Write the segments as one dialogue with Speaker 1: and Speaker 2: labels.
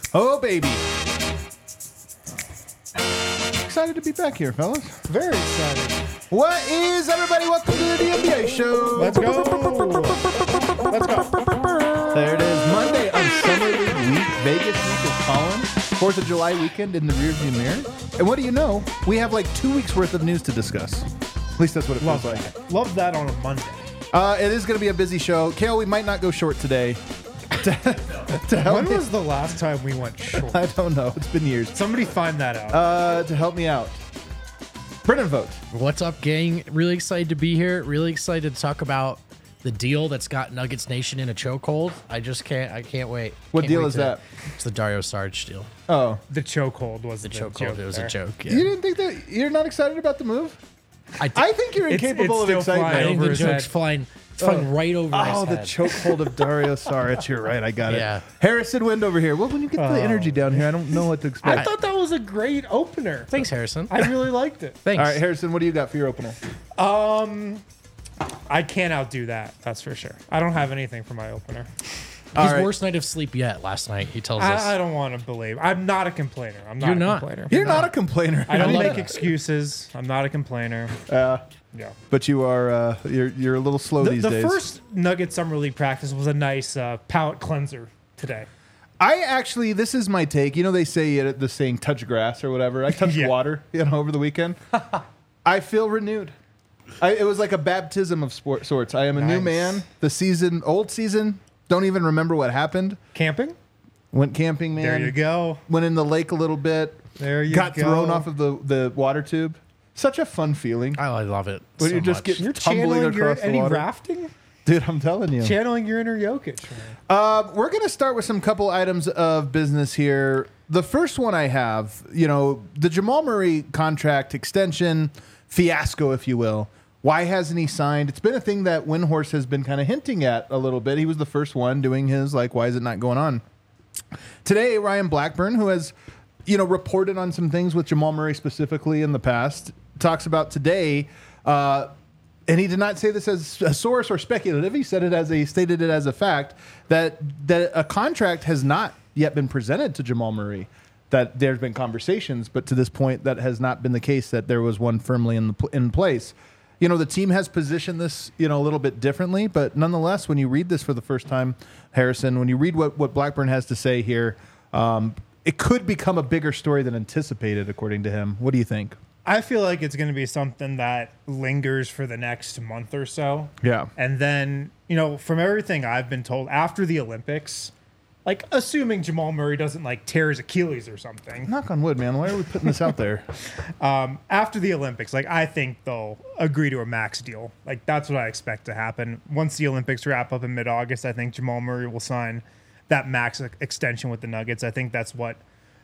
Speaker 1: Oh, baby. Excited to be back here, fellas.
Speaker 2: Very excited.
Speaker 1: What is, everybody? Welcome to the NBA show.
Speaker 2: Let's go. Let's go.
Speaker 1: There it is. Monday on Summer League week. Vegas week is calling. 4th of July weekend in the rearview mirror. And what do you know? We have like 2 weeks worth of news to discuss. At least that's what it feels like.
Speaker 2: Love that on a Monday.
Speaker 1: It is going to be a busy show. Kale, we might not go short today. to help
Speaker 2: When
Speaker 1: me-
Speaker 2: was the last time we went short?
Speaker 1: I don't know. It's been years.
Speaker 2: Somebody find that out.
Speaker 1: To help me out. Brennan Vogt.
Speaker 3: What's up, gang? Really excited to be here. Really excited to talk about the deal that's got Nuggets Nation in a chokehold. I can't wait.
Speaker 1: What
Speaker 3: Can't
Speaker 1: deal
Speaker 3: wait
Speaker 1: is that?
Speaker 3: It's the Dario Saric deal.
Speaker 1: Oh.
Speaker 2: The chokehold was
Speaker 3: The
Speaker 2: the
Speaker 3: chokehold.
Speaker 2: joke
Speaker 3: It was a
Speaker 2: there.
Speaker 3: joke. Yeah.
Speaker 1: You didn't think that? You're not excited about the move? I think you're
Speaker 2: It's
Speaker 1: incapable of
Speaker 2: still
Speaker 1: excitement.
Speaker 3: I
Speaker 2: flying
Speaker 3: think
Speaker 2: over
Speaker 3: the
Speaker 2: his
Speaker 3: joke's
Speaker 2: head.
Speaker 3: flying. It's flying right over his
Speaker 1: Oh, the
Speaker 3: head.
Speaker 1: chokehold of Dario Saric. You're right. I got it.
Speaker 3: Yeah.
Speaker 1: Harrison Wind over here. Well, when you get the energy down here, I don't know what to
Speaker 2: I
Speaker 1: expect.
Speaker 2: thought that was a great opener.
Speaker 3: Thanks, Harrison.
Speaker 2: I really liked it.
Speaker 3: Thanks.
Speaker 1: All right, Harrison, what do you got for your opener?
Speaker 2: I can't outdo that. That's for sure. I don't have anything for my opener.
Speaker 3: His
Speaker 1: right.
Speaker 3: worst night of sleep yet last night, he tells us.
Speaker 2: I don't want to believe. I'm not a complainer. I'm not
Speaker 3: You're
Speaker 2: a
Speaker 3: not.
Speaker 2: complainer.
Speaker 1: You're not a complainer.
Speaker 2: I don't
Speaker 3: love
Speaker 2: make
Speaker 3: that.
Speaker 2: excuses. I'm not a complainer. Yeah.
Speaker 1: But you are. You're a little slow these
Speaker 2: The
Speaker 1: days.
Speaker 2: first Nugget Summer League practice was a nice palate cleanser today.
Speaker 1: I actually, this is my take. You know, they say the saying "touch grass" or whatever. I touched
Speaker 2: Yeah.
Speaker 1: water, over the weekend. I feel renewed. It was like a baptism of sorts. I am a new
Speaker 2: Nice.
Speaker 1: man. Old season, don't even remember what happened.
Speaker 2: Camping?
Speaker 1: Went camping, man.
Speaker 2: There you go.
Speaker 1: Went in the lake a little bit.
Speaker 2: There you
Speaker 1: Got
Speaker 2: go.
Speaker 1: thrown off of the water tube. Such a fun feeling.
Speaker 3: I love it.
Speaker 1: When
Speaker 3: so
Speaker 1: you just
Speaker 3: much.
Speaker 1: get
Speaker 2: You're
Speaker 1: tumbling
Speaker 2: channeling your
Speaker 1: across the
Speaker 2: any
Speaker 1: water.
Speaker 2: rafting?
Speaker 1: Dude, I'm telling you.
Speaker 2: Channeling your inner Jokic. Man.
Speaker 1: We're going to start with some couple items of business here. The first one I have, the Jamal Murray contract extension fiasco, if you will. Why hasn't he signed? It's been a thing that Windhorse has been kind of hinting at a little bit. He was the first one doing his, why is it not going on? Today, Ryan Blackburn, who has, reported on some things with Jamal Murray specifically in the past, talks about today, and he did not say this as a source or speculative. He said stated it as a fact that a contract has not yet been presented to Jamal Murray. That there's been conversations, but to this point, that has not been the case. That there was one firmly in place. The team has positioned this, a little bit differently, but nonetheless, when you read this for the first time, Harrison, when you read what Blackburn has to say here, it could become a bigger story than anticipated, according to him. What do you think?
Speaker 2: I feel like it's going to be something that lingers for the next month or so.
Speaker 1: Yeah.
Speaker 2: And then, from everything I've been told after the Olympics, assuming Jamal Murray doesn't tear his Achilles or something.
Speaker 1: Knock on wood, man. Why are we putting this out there?
Speaker 2: After the Olympics, I think they'll agree to a max deal. That's what I expect to happen. Once the Olympics wrap up in mid-August, I think Jamal Murray will sign that max extension with the Nuggets. I think that's what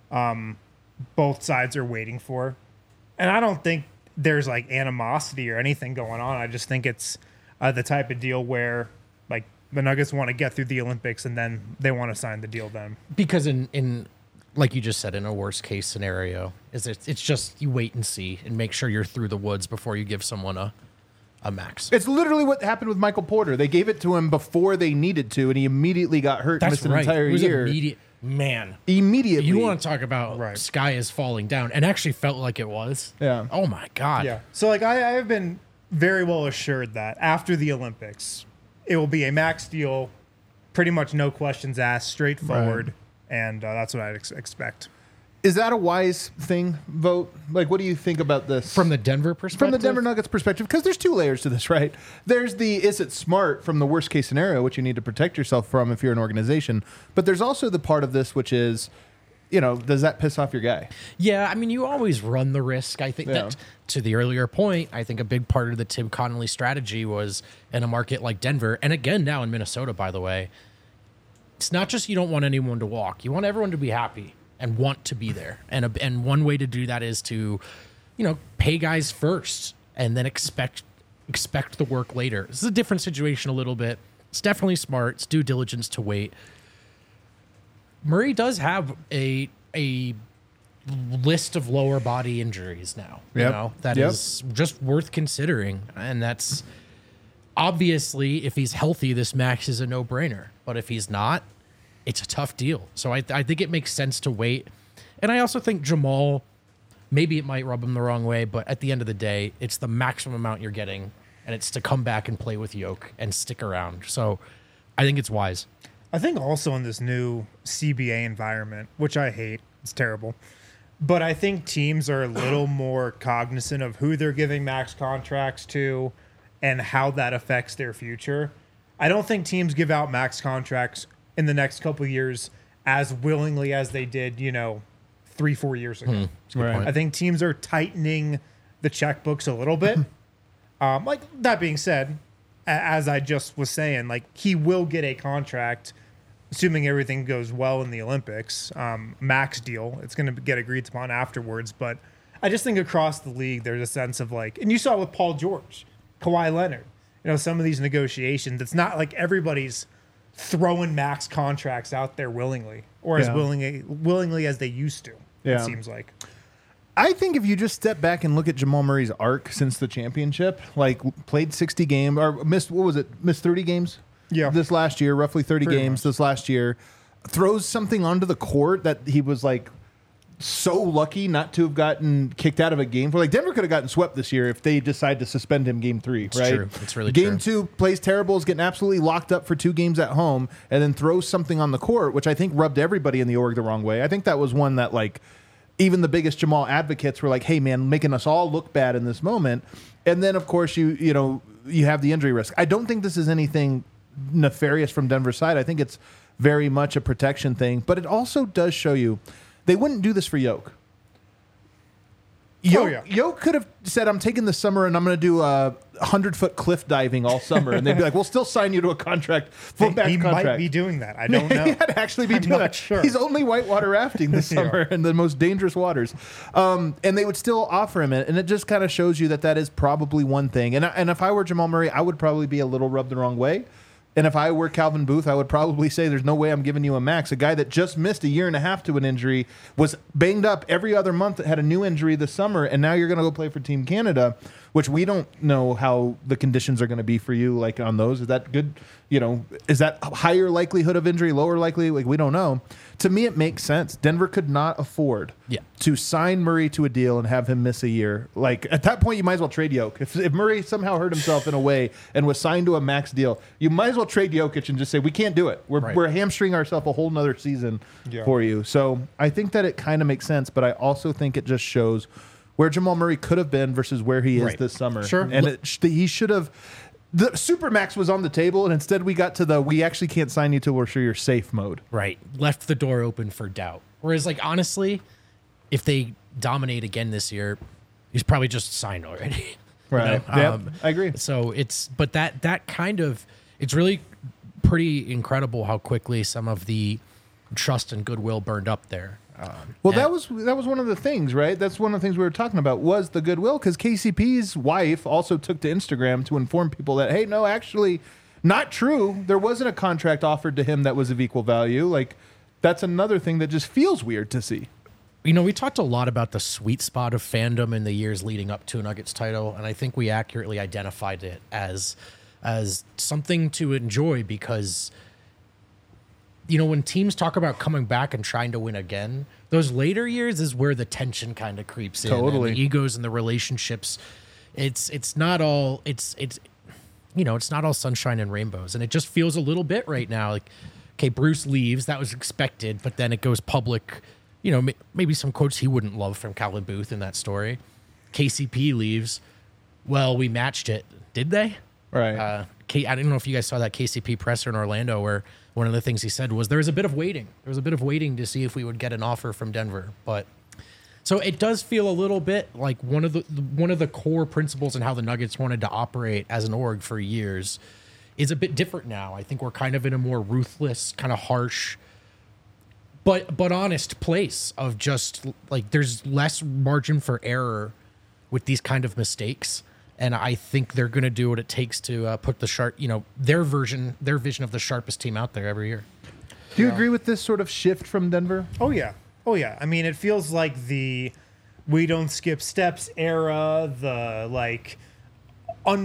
Speaker 2: both sides are waiting for. And I don't think there's animosity or anything going on. I just think it's the type of deal where the Nuggets want to get through the Olympics and then they want to sign the deal then.
Speaker 3: Because in like you just said, in a worst case scenario, it's just you wait and see and make sure you're through the woods before you give someone a max.
Speaker 1: It's literally what happened with Michael Porter. They gave it to him before they needed to, and he immediately got hurt and missed an entire
Speaker 3: It was
Speaker 1: year.
Speaker 3: immediate. Man,
Speaker 1: Immediately.
Speaker 3: you want to talk about
Speaker 2: Right.
Speaker 3: sky is falling down, and actually felt like it was.
Speaker 1: Yeah.
Speaker 3: Oh my god.
Speaker 2: Yeah. So I have been very well assured that after the Olympics, it will be a max deal, pretty much no questions asked, straightforward, and that's what I'd expect.
Speaker 1: Is that a wise thing, Vote? What do you think about this?
Speaker 3: From the Denver perspective.
Speaker 1: From the Denver Nuggets perspective, because there's two layers to this, right? There's is it smart from the worst case scenario, which you need to protect yourself from if you're an organization. But there's also the part of this, which is, does that piss off your guy?
Speaker 3: Yeah, I mean, you always run the risk. I think that, to the earlier point, I think a big part of the Tim Connolly strategy was in a market like Denver, and again now in Minnesota, by the way, it's not just you don't want anyone to walk. You want everyone to be happy and want to be there. And one way to do that is to, pay guys first and then expect the work later. This is a different situation a little bit. It's definitely smart. It's due diligence to wait. Murray does have a list of lower body injuries now. That is just worth considering. And that's obviously, if he's healthy, this max is a no-brainer. But if he's not, it's a tough deal. So I think it makes sense to wait. And I also think Jamal, maybe it might rub him the wrong way, but at the end of the day, it's the maximum amount you're getting, and it's to come back and play with Yoke and stick around. So I think it's wise.
Speaker 2: I think also in this new CBA environment, which I hate, it's terrible, but I think teams are a little more cognizant of who they're giving max contracts to and how that affects their future. I don't think teams give out max contracts in the next couple of years as willingly as they did, 3-4 years ago.
Speaker 1: Right.
Speaker 2: I think teams are tightening the checkbooks a little bit. Like that being said, as I just was saying, like he will get a contract, assuming everything goes well in the Olympics, max deal. It's going to get agreed upon afterwards. But I just think across the league, there's a sense of like, and you saw it with Paul George, Kawhi Leonard, some of these negotiations. It's not like everybody's throwing max contracts out there willingly or as willingly as they used to.
Speaker 1: Yeah.
Speaker 2: It seems like.
Speaker 1: I think if you just step back and look at Jamal Murray's arc since the championship, like played 60 games or missed 30 games?
Speaker 2: Yeah.
Speaker 1: This last year, roughly 30
Speaker 2: Pretty
Speaker 1: games
Speaker 2: much.
Speaker 1: this last year, throws something onto the court that he was like so lucky not to have gotten kicked out of a game for. Like Denver could have gotten swept this year if they decide to suspend him game 3,
Speaker 3: It's
Speaker 1: right?
Speaker 3: true. It's really
Speaker 1: game
Speaker 3: true.
Speaker 1: 2 plays terrible, is getting absolutely locked up for 2 games at home, and then throws something on the court, which I think rubbed everybody in the org the wrong way. I think that was one that like even the biggest Jamal advocates were like, hey man, making us all look bad in this moment. And then of course you have the injury risk. I don't think this is anything nefarious from Denver's side. I think it's very much a protection thing, but it also does show you they wouldn't do this for Yoke. Yoke could have said, I'm taking this summer and I'm going to do 100-foot cliff diving all summer. And they'd be like, we'll still sign you to a contract, full max
Speaker 2: He
Speaker 1: contract.
Speaker 2: might be doing that. I don't know.
Speaker 1: He might actually be
Speaker 2: I'm
Speaker 1: doing
Speaker 2: not
Speaker 1: that.
Speaker 2: sure.
Speaker 1: He's only whitewater rafting this summer in the most dangerous waters. And they would still offer him it. And it just kind of shows you that is probably one thing. And if I were Jamal Murray, I would probably be a little rubbed the wrong way. And if I were Calvin Booth, I would probably say there's no way I'm giving you a max. A guy that just missed a year and a half to an injury, was banged up every other month, had a new injury this summer, and now you're going to go play for Team Canada, which we don't know how the conditions are going to be for you, like on those. Is that good? Is that higher likelihood of injury, lower likely? Like, we don't know. To me, it makes sense. Denver could not afford to sign Murray to a deal and have him miss a year. Like, at that point, you might as well trade Jokic. If Murray somehow hurt himself in a way and was signed to a max deal, you might as well trade Jokic and just say, we can't do it. We're hamstringing ourselves a whole nother season for you. So I think that it kind of makes sense, but I also think it just shows where Jamal Murray could have been versus where he is this summer.
Speaker 3: Sure.
Speaker 1: And he should have. The Supermax was on the table, and instead we got to we actually can't sign you till we're sure you're safe mode.
Speaker 3: Right. Left the door open for doubt. Whereas, like, honestly, if they dominate again this year, he's probably just signed already.
Speaker 1: Right. Yep, I agree.
Speaker 3: So but that kind of, it's really pretty incredible how quickly some of the trust and goodwill burned up there.
Speaker 1: That was one of the things, right? That's one of the things we were talking about was the goodwill, because KCP's wife also took to Instagram to inform people that, hey, no, actually, not true. There wasn't a contract offered to him that was of equal value. Like, that's another thing that just feels weird to see.
Speaker 3: We talked a lot about the sweet spot of fandom in the years leading up to a Nuggets title, and I think we accurately identified it as something to enjoy because when teams talk about coming back and trying to win again, those later years is where the tension kind of creeps in.
Speaker 1: Totally.
Speaker 3: And the egos and the relationships. It's not all it's not all sunshine and rainbows. And it just feels a little bit right now like, okay, Bruce leaves, that was expected, but then it goes public. Maybe some quotes he wouldn't love from Calvin Booth in that story. KCP leaves. Well, we matched it. Did they?
Speaker 1: Right.
Speaker 3: I don't know if you guys saw that KCP presser in Orlando where one of the things he said was there was a bit of waiting. There was a bit of waiting to see if we would get an offer from Denver. But so it does feel a little bit like one of the core principles in how the Nuggets wanted to operate as an org for years is a bit different now. I think we're kind of in a more ruthless, kind of harsh, but honest place of just like there's less margin for error with these kind of mistakes. And I think they're going to do what it takes to put the sharp, their vision of the sharpest team out there every year.
Speaker 1: Do you agree with this sort of shift from Denver?
Speaker 2: Oh, yeah. I mean, it feels like the we don't skip steps era, the like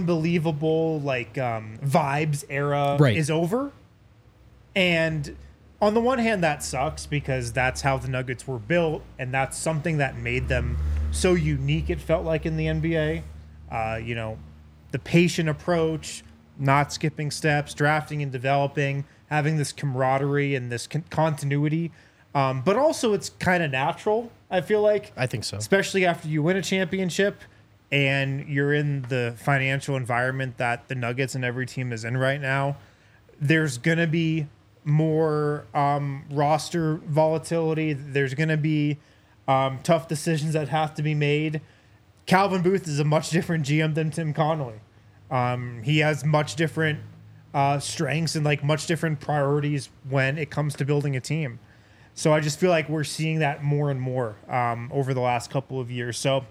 Speaker 2: unbelievable like vibes era is over. And on the one hand, that sucks because that's how the Nuggets were built, and that's something that made them so unique, it felt like, in the NBA. The patient approach, not skipping steps, drafting and developing, having this camaraderie and this continuity. But also it's kind of natural, I feel like.
Speaker 3: I think so.
Speaker 2: Especially after you win a championship and you're in the financial environment that the Nuggets and every team is in right now. There's going to be more roster volatility. There's going to be tough decisions that have to be made. Calvin Booth is a much different GM than Tim Connolly. He has much different strengths and like much different priorities when it comes to building a team. So I just feel like we're seeing that more and more over the last couple of years. So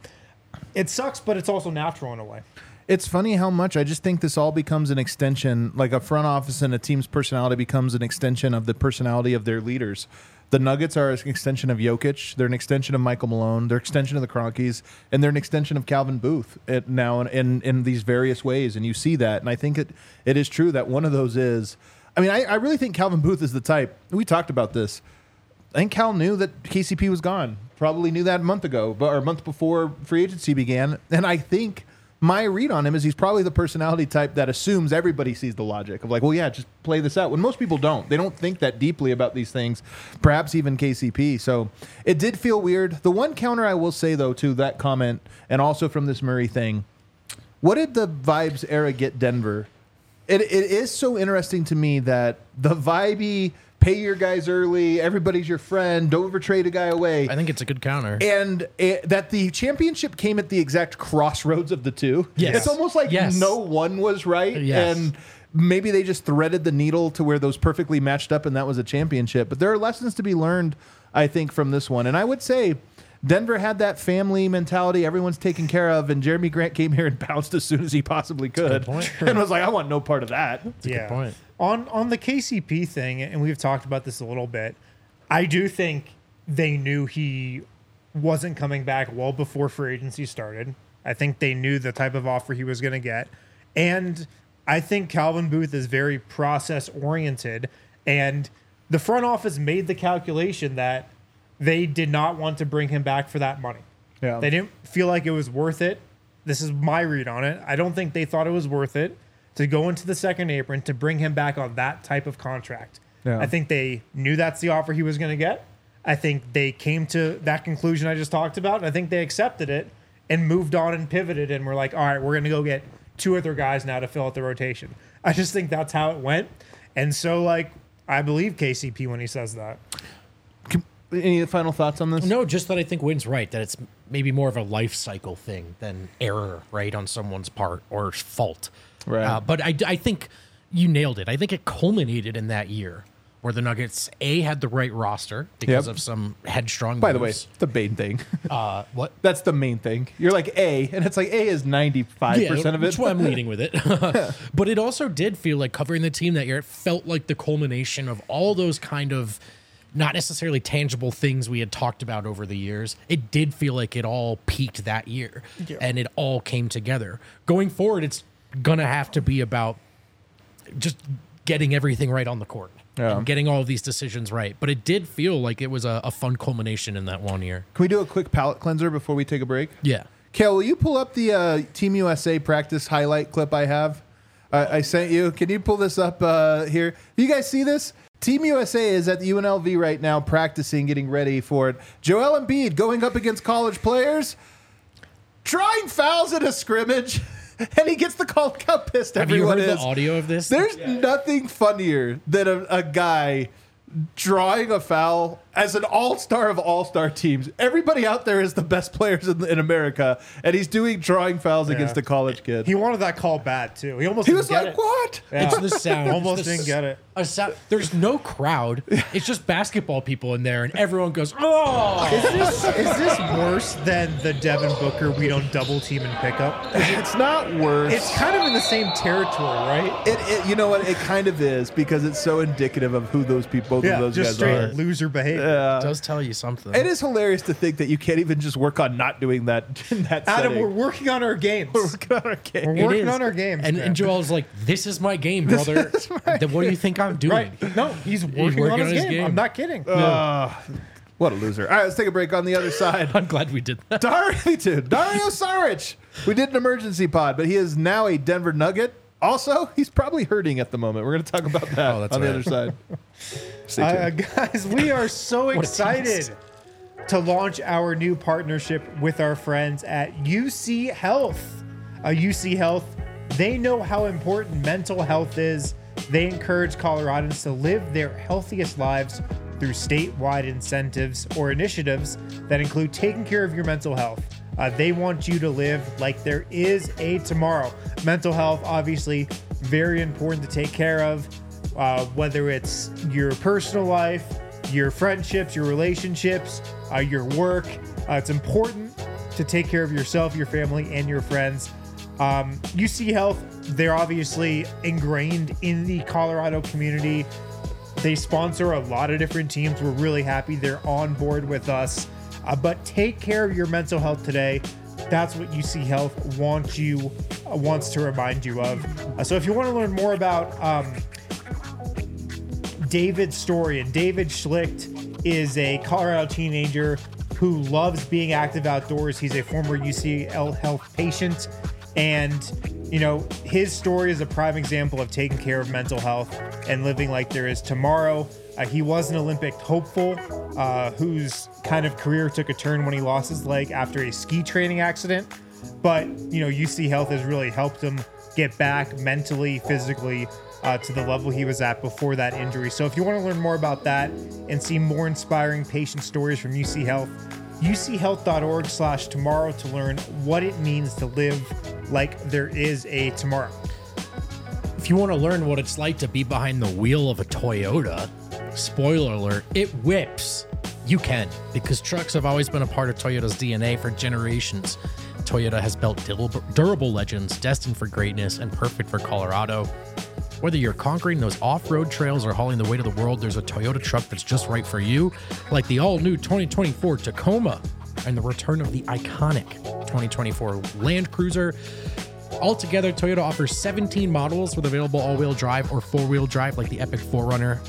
Speaker 2: it sucks, but it's also natural in a way.
Speaker 1: It's funny how much I just think this all becomes an extension, like a front office and a team's personality becomes an extension of the personality of their leaders. The Nuggets are an extension of Jokic. They're an extension of Michael Malone. They're an extension of the Kroenkes. And they're an extension of Calvin Booth now in these various ways. And you see that. And I think it is true that one of those is, I mean, I really think Calvin Booth is the type. We talked about this. I think Cal knew that KCP was gone. Probably knew that a month ago, or a month before free agency began. And I think my read on him is he's probably the personality type that assumes everybody sees the logic of like, well, yeah, just play this out. When most people don't. They don't think that deeply about these things, perhaps even KCP. So it did feel weird. The one counter I will say, though, to that comment, and also from this Murray thing, what did the Vibes era get Denver? It is so interesting to me that the vibey, pay your guys early, everybody's your friend, don't ever trade a guy away.
Speaker 3: I think it's a good counter.
Speaker 1: And that the championship came at the exact crossroads of the two.
Speaker 3: Yes.
Speaker 1: It's almost like no one was right.
Speaker 3: Yes.
Speaker 1: And maybe they just threaded the needle to where those perfectly matched up and that was a championship. But there are lessons to be learned, I think, from this one. And I would say Denver had that family mentality. Everyone's taken care of. And Jeremy Grant came here and bounced as soon as he possibly could. And was like, I want no part of that.
Speaker 3: That's a good point.
Speaker 2: On the KCP thing, and we've talked about this a little bit, I do think they knew he wasn't coming back well before free agency started. I think they knew the type of offer he was going to get. And I think Calvin Booth is very process-oriented. And the front office made the calculation that they did not want to bring him back for that money.
Speaker 1: Yeah.
Speaker 2: They didn't feel like it was worth it. This is my read on it. I don't think they thought it was worth it to go into the second apron to bring him back on that type of contract.
Speaker 1: Yeah.
Speaker 2: I think they knew that's the offer he was going to get. I think they came to that conclusion I just talked about, and I think they accepted it and moved on and pivoted and were like, all right, we're going to go get two other guys now to fill out the rotation. I just think that's how it went. And so, like, I believe KCP when he says that.
Speaker 1: Any final thoughts on this?
Speaker 3: No, just that I think Wynn's right, that it's maybe more of a life cycle thing than error, right, on someone's part or fault.
Speaker 1: Right.
Speaker 3: But I think you nailed it. I think it culminated in that year where the Nuggets, A, had the right roster because of some headstrong
Speaker 1: By the way,
Speaker 3: moves.
Speaker 1: the main thing.
Speaker 3: What?
Speaker 1: That's the main thing. You're like A, and it's like A is 95% of it.
Speaker 3: That's why I'm leading with it. But it also did feel like covering the team that year, it felt like the culmination of all those kind of not necessarily tangible things we had talked about over the years. It did feel like it all peaked that year, and it all came together. Going forward, it's going to have to be about just getting everything right on the court and getting all of these decisions right. But it did feel like it was a fun culmination in that 1 year.
Speaker 1: Can we do a quick palate cleanser before we take a break?
Speaker 3: Yeah.
Speaker 1: Kale, will you pull up the Team USA practice highlight clip I have? I sent you. Can you pull this up here? You guys see this? Team USA is at the UNLV right now practicing, getting ready for it. Joel Embiid going up against college players, drawing fouls in a scrimmage, and he gets the call. Look how pissed everyone is.
Speaker 3: Have you heard the audio of this?
Speaker 1: There's nothing funnier than a guy drawing a foul as an all-star of all-star teams. Everybody out there is the best players in America, and he's doing drawing fouls against a college kid.
Speaker 2: He wanted that call bad, too. He
Speaker 1: was
Speaker 2: didn't get
Speaker 1: like,
Speaker 2: it.
Speaker 1: what?
Speaker 2: Yeah.
Speaker 3: It's the sound.
Speaker 2: Almost didn't get it.
Speaker 3: There's no crowd. It's just basketball people in there, and everyone goes, "Oh!"
Speaker 2: Is this worse than the Devin Booker we don't double team and pick up?
Speaker 1: It's not worse.
Speaker 2: It's kind of in the same territory, right?
Speaker 1: It you know what? It kind of is because it's so indicative of who those people, both of those
Speaker 2: just
Speaker 1: guys are.
Speaker 2: straight loser behavior.
Speaker 3: It does tell you something.
Speaker 1: It is hilarious to think that you can't even just work on not doing that in that
Speaker 2: Adam,
Speaker 1: setting.
Speaker 2: we're working on our games.
Speaker 1: Working on our game.
Speaker 2: We're
Speaker 3: It
Speaker 2: working
Speaker 3: is.
Speaker 2: on our games.
Speaker 3: And
Speaker 2: man.
Speaker 3: Joel's like, "This is my game, brother. What do you think I'm doing
Speaker 2: right.
Speaker 3: it.
Speaker 2: No, he's working on his game. I'm not kidding.
Speaker 1: What a loser. All right, let's take a break. On the other side.
Speaker 3: I'm glad we did that.
Speaker 1: Dario Saric. We did an emergency pod, but he is now a Denver Nugget. Also, he's probably hurting at the moment. We're going to talk about that on the other side. Stay tuned.
Speaker 2: Guys, we are so excited to launch our new partnership with our friends at UC Health. UC Health, they know how important mental health is. They encourage Coloradans to live their healthiest lives through statewide incentives or initiatives that include taking care of your mental health. They want you to live like there is a tomorrow. Mental health, obviously, very important to take care of, whether it's your personal life, your friendships, your relationships, your work. It's important to take care of yourself, your family, and your friends. UC Health, they're obviously ingrained in the Colorado community. They sponsor a lot of different teams. We're really happy they're on board with us. But take care of your mental health today. That's what UC Health wants to remind you of. So if you want to learn more about David's story, and David Schlicht is a Colorado teenager who loves being active outdoors. He's a former UC Health patient, and his story is a prime example of taking care of mental health and living like there is tomorrow. He was an Olympic hopeful whose kind of career took a turn when he lost his leg after a ski training accident. But, UC Health has really helped him get back mentally, physically to the level he was at before that injury. So if you want to learn more about that and see more inspiring patient stories from UC Health, uchealth.org/tomorrow to learn what it means to live like there is a tomorrow.
Speaker 3: If you want to learn what it's like to be behind the wheel of a Toyota, spoiler alert, it whips. You can, because trucks have always been a part of Toyota's DNA for generations. Toyota has built durable legends destined for greatness and perfect for Colorado. Whether you're conquering those off-road trails or hauling the weight of the world, there's a Toyota truck that's just right for you, like the all-new 2024 Tacoma and the return of the iconic 2024 Land Cruiser. Altogether, Toyota offers 17 models with available all-wheel drive or four-wheel drive like the Epic 4Runner.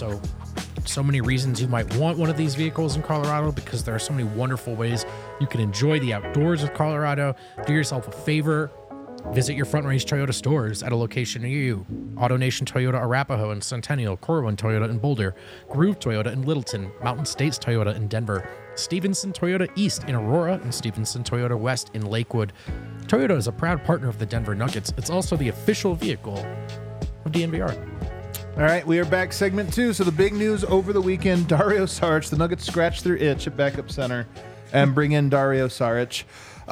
Speaker 3: So many reasons you might want one of these vehicles in Colorado, because there are so many wonderful ways you can enjoy the outdoors of Colorado. Do yourself a favor. Visit your Front Range Toyota stores at a location near you. AutoNation Toyota Arapahoe and Centennial, Corwin Toyota in Boulder, Groove Toyota in Littleton, Mountain States Toyota in Denver, Stevenson Toyota East in Aurora, and Stevenson Toyota West in Lakewood. Toyota is a proud partner of the Denver Nuggets. It's also the official vehicle of DNVR.
Speaker 1: All right, we are back, segment 2. So the big news over the weekend, Dario Saric. The Nuggets scratch their itch at backup center and bring in Dario Saric.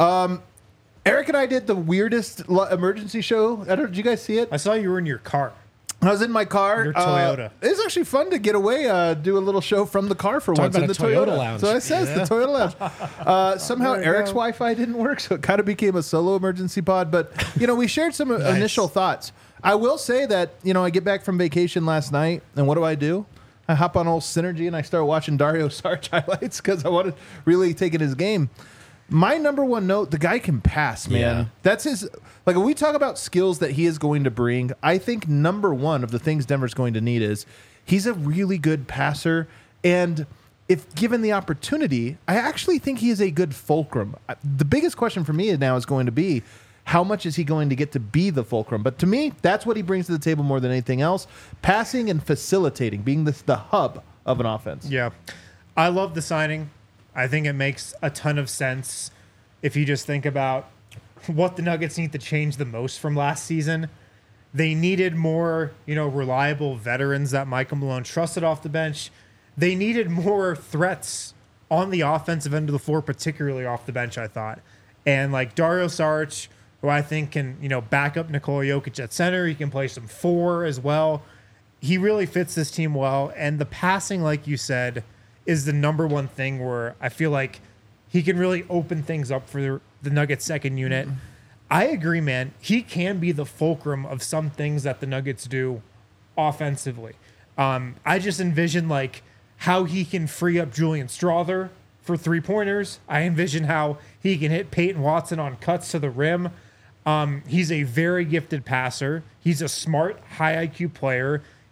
Speaker 1: Eric and I did the weirdest emergency show. Did you guys see it?
Speaker 2: I saw you were in your car.
Speaker 1: I was in my car.
Speaker 2: Your Toyota.
Speaker 1: It was actually fun to get away, do a little show from the car for once in the Toyota
Speaker 3: lounge.
Speaker 1: So it says the Toyota lounge. Somehow Eric's Wi-Fi didn't work, so it kind of became a solo emergency pod. But, we shared some initial thoughts. I will say that, I get back from vacation last night, and what do? I hop on old Synergy, and I start watching Dario Saric highlights because I wanted really taking his game. My number one note, the guy can pass, man.
Speaker 3: Yeah.
Speaker 1: That's his, when we talk about skills that he is going to bring, I think number one of the things Denver's going to need is he's a really good passer. And if given the opportunity, I actually think he is a good fulcrum. The biggest question for me now is going to be, how much is he going to get to be the fulcrum? But to me, that's what he brings to the table more than anything else. Passing and facilitating, being the hub of an offense.
Speaker 2: Yeah. I love the signing. I think it makes a ton of sense if you just think about what the Nuggets need to change the most from last season. They needed more, reliable veterans that Michael Malone trusted off the bench. They needed more threats on the offensive end of the floor, particularly off the bench, I thought. And like Dario Saric, who I think can, back up Nikola Jokic at center. He can play some 4 as well. He really fits this team well. And the passing, like you said, is the number one thing where I feel like he can really open things up for the Nuggets second unit. I agree, man. He can be the fulcrum of some things that the Nuggets do offensively. I just envision how he can free up Julian Strawther for 3-pointers. I envision how he can hit Peyton Watson on cuts to the rim. He's a very gifted passer. He's a smart, high IQ player.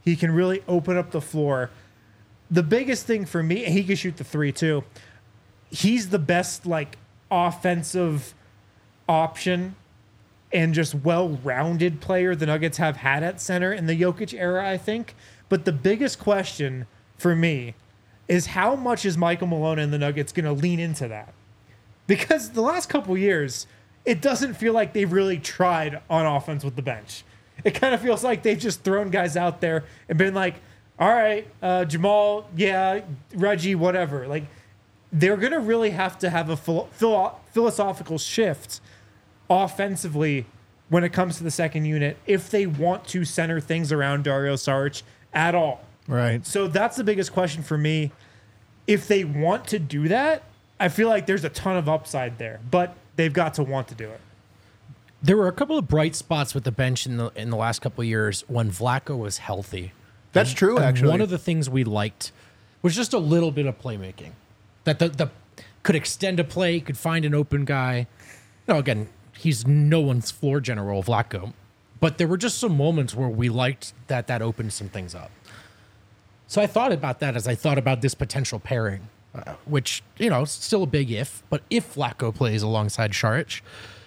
Speaker 2: He can really open up the floor. The biggest thing for me, and he can shoot the three too. He's the best like offensive option and just well-rounded player the Nuggets have had at center in the Jokic era, I think. But the biggest question for me is how much is Michael Malone and the Nuggets going to lean into that? Because the last couple years, it doesn't feel like they've really tried on offense with the bench. It kind of feels like they've just thrown guys out there and been like, all right, Jamal, yeah, Reggie, whatever. Like, they're going to really have to have a philosophical shift offensively when it comes to the second unit if they want to center things around Dario Saric at all.
Speaker 1: Right.
Speaker 2: So that's the biggest question for me. If they want to do that, I feel like there's a ton of upside there, but they've got to want to do it.
Speaker 3: There were a couple of bright spots with the bench in the last couple of years when Vlatko was healthy.
Speaker 1: That's true,
Speaker 3: And
Speaker 1: actually.
Speaker 3: one of the things we liked was just a little bit of playmaking. That the could extend a play, could find an open guy. No, again, he's no one's floor general, Vlatko. But there were just some moments where we liked that opened some things up. So I thought about that as I thought about this potential pairing, which, is still a big if. But if Vlatko plays alongside Saric,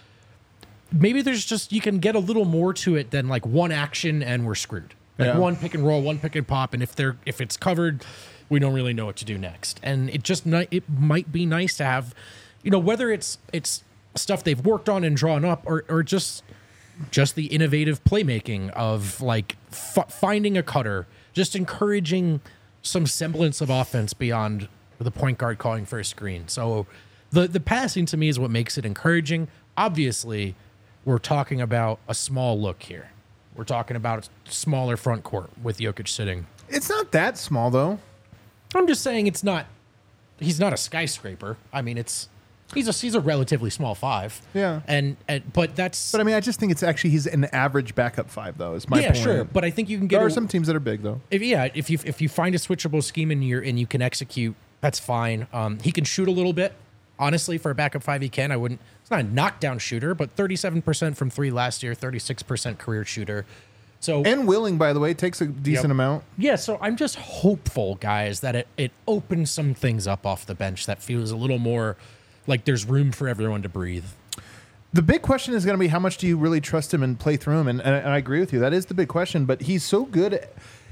Speaker 3: maybe there's just, you can get a little more to it than like one action and we're screwed. Like one pick and roll, one pick and pop, and if it's covered, we don't really know what to do next. And it might be nice to have, whether it's stuff they've worked on and drawn up, or just the innovative playmaking of like finding a cutter, just encouraging some semblance of offense beyond the point guard calling for a screen. So the passing to me is what makes it encouraging. Obviously, we're talking about a small look here. We're talking about a smaller front court with Jokic sitting.
Speaker 1: It's not that small, though.
Speaker 3: I'm just saying he's not a skyscraper. I mean, he's a relatively small five.
Speaker 1: Yeah.
Speaker 3: But that's...
Speaker 1: But I mean, I just think he's an average backup five, though, is my point.
Speaker 3: Yeah, sure. But I think you can get...
Speaker 1: There are some teams that are big, though.
Speaker 3: If you find a switchable scheme and you can execute, that's fine. He can shoot a little bit. Honestly, for a backup five, he can. It's not a knockdown shooter, but 37% from three last year, 36% career shooter. So
Speaker 1: And willing, by the way, takes a decent amount.
Speaker 3: Yeah, so I'm just hopeful, guys, that it opens some things up off the bench that feels a little more like there's room for everyone to breathe.
Speaker 1: The big question is going to be how much do you really trust him and play through him? And I agree with you. That is the big question. But he's so good.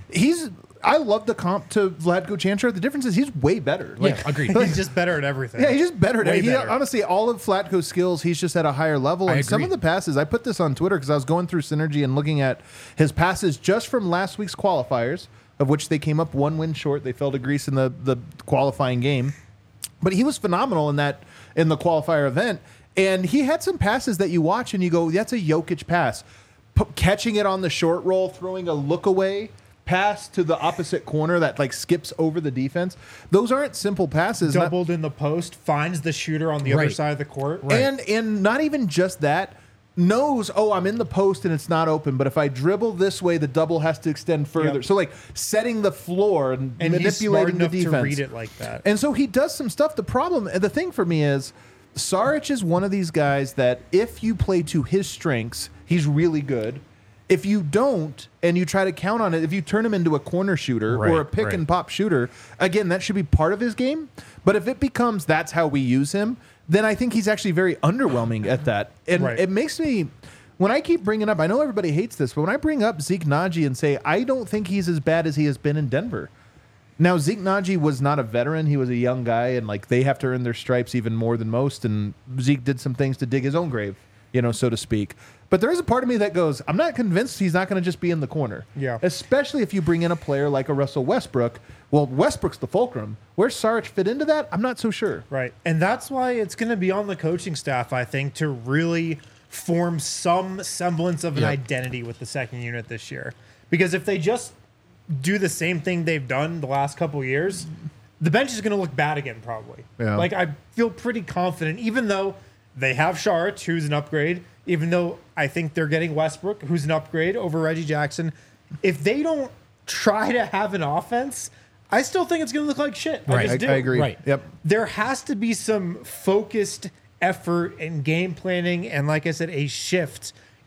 Speaker 1: I love the comp to Vlatko Čančar. The difference is he's way better.
Speaker 3: Yeah, agreed.
Speaker 2: He's just better at everything.
Speaker 1: Yeah, he's just better.
Speaker 2: Way better.
Speaker 1: Honestly, all of Vlatko's skills, he's just at a higher level.
Speaker 3: I
Speaker 1: And some
Speaker 3: agree.
Speaker 1: of the passes, I put this on Twitter because I was going through Synergy and looking at his passes just from last week's qualifiers, of which they came up one win short. They fell to Greece in the qualifying game. But he was phenomenal in the qualifier event. And he had some passes that you watch and you go, that's a Jokic pass. Catching it on the short roll, throwing a look away pass to the opposite corner that like skips over the defense. Those aren't simple passes.
Speaker 2: Doubled in the post, finds the shooter on the other
Speaker 3: Right.
Speaker 2: side of the court.
Speaker 3: Right.
Speaker 1: And not even just that, knows, I'm in the post and it's not open, but if I dribble this way, the double has to extend further.
Speaker 2: Yep.
Speaker 1: So like setting the floor and
Speaker 2: he's smart
Speaker 1: manipulating the
Speaker 2: enough
Speaker 1: defense.
Speaker 2: to read it like that.
Speaker 1: And so he does some stuff. The thing for me is Saric is one of these guys that if you play to his strengths, he's really good. If you don't, and you try to count on it, if you turn him into a corner shooter or a pick and pop shooter, again, that should be part of his game. But if it becomes that's how we use him, then I think he's actually very underwhelming at that. And it makes me, when I keep bringing up, I know everybody hates this, but when I bring up Zeke Naji and say, I don't think he's as bad as he has been in Denver. Now, Zeke Naji was not a veteran. He was a young guy, and like they have to earn their stripes even more than most. And Zeke did some things to dig his own grave, so to speak. But there is a part of me that goes, I'm not convinced he's not going to just be in the corner.
Speaker 2: Yeah.
Speaker 1: Especially if you bring in a player like a Russell Westbrook. Well, Westbrook's the fulcrum. Where Saric fit into that, I'm not so sure.
Speaker 2: Right. And that's why it's going to be on the coaching staff, I think, to really form some semblance of an identity with the second unit this year. Because if they just do the same thing they've done the last couple of years, the bench is going to look bad again, probably.
Speaker 1: Yeah.
Speaker 2: Like, I feel pretty confident, even though they have Saric, who's an upgrade, even though I think they're getting Westbrook, who's an upgrade over Reggie Jackson. If they don't try to have an offense, I still think it's going to look like shit. I just do.
Speaker 1: I agree.
Speaker 3: Right.
Speaker 1: Yep.
Speaker 2: There has to be some focused effort and game planning and, like I said, a shift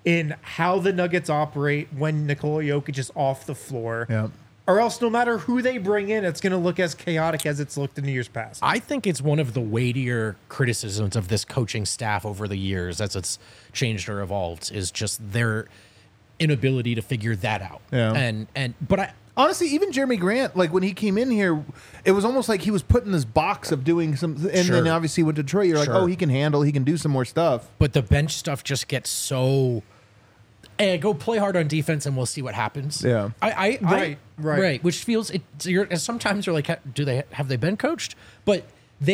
Speaker 2: in how the Nuggets operate when Nikola Jokic is off the floor.
Speaker 1: Yeah.
Speaker 2: Or else, no matter who they bring in, it's going to look as chaotic as it's looked in years past.
Speaker 3: I think it's one of the weightier criticisms of this coaching staff over the years as it's changed or evolved is just their inability to figure that out.
Speaker 1: Yeah.
Speaker 3: But
Speaker 1: Honestly, even Jeremy Grant, like when he came in here, it was almost like he was put in this box of doing some, and
Speaker 3: Sure.
Speaker 1: then obviously with Detroit, you're like,
Speaker 3: Sure.
Speaker 1: oh, he can handle, he can do some more stuff.
Speaker 3: But the bench stuff just gets so. Hey, go play hard on defense, and we'll see what happens.
Speaker 1: Yeah.
Speaker 2: Right.
Speaker 3: Which feels sometimes you're like, have they been coached? But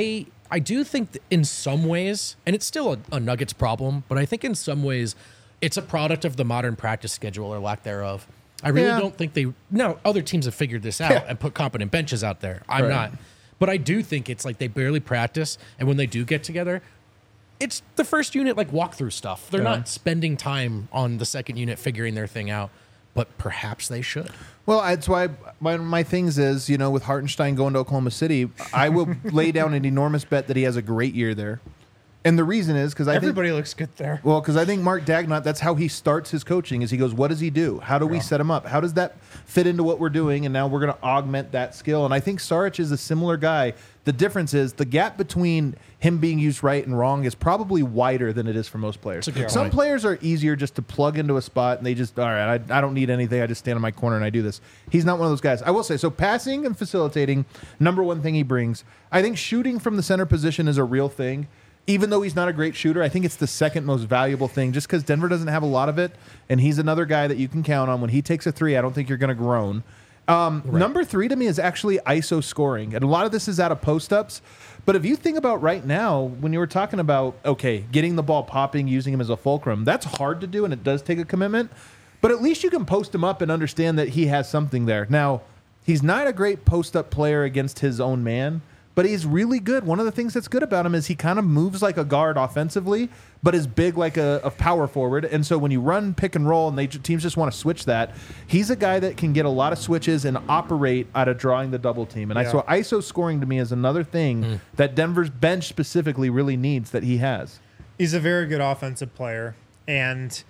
Speaker 3: I do think that in some ways, and it's still a Nuggets problem, but I think in some ways, it's a product of the modern practice schedule or lack thereof. I really
Speaker 1: Yeah.
Speaker 3: don't think other teams have figured this out and put competent benches out there. I'm
Speaker 1: Right.
Speaker 3: not. But I do think it's like they barely practice, and when they do get together, it's the first unit like walkthrough stuff. They're
Speaker 1: Yeah.
Speaker 3: not spending time on the second unit figuring their thing out, but perhaps they should.
Speaker 1: Well, that's why my things is, with Hartenstein going to Oklahoma City, I will lay down an enormous bet that he has a great year there. And the reason is because
Speaker 2: Everybody looks good there.
Speaker 1: Well, because I think Mark Dagnott, that's how he starts his coaching. Is he goes, what does he do? How do we set him up? How does that fit into what we're doing? And now we're going to augment that skill. And I think Saric is a similar guy. The difference is the gap between him being used right and wrong is probably wider than it is for most players.
Speaker 3: That's a good
Speaker 1: Some
Speaker 3: point.
Speaker 1: players are easier just to plug into a spot and they just, all right, I don't need anything. I just stand in my corner and I do this. He's not one of those guys. I will say, so passing and facilitating, number one thing he brings. I think shooting from the center position is a real thing. Even though he's not a great shooter, I think it's the second most valuable thing just because Denver doesn't have a lot of it. And he's another guy that you can count on. When he takes a three, I don't think you're going to groan. Number three to me is actually ISO scoring. And a lot of this is out of post-ups. But if you think about right now, when you were talking about, okay, getting the ball popping, using him as a fulcrum, that's hard to do and it does take a commitment. But at least you can post him up and understand that he has something there. Now, he's not a great post-up player against his own man. But he's really good. One of the things that's good about him is he kind of moves like a guard offensively, but is big like a power forward. And so when you run pick and roll and teams just want to switch that, he's a guy that can get a lot of switches and operate out of drawing the double team. And so ISO scoring to me is another thing that Denver's bench specifically really needs that he has.
Speaker 2: He's a very good offensive player. And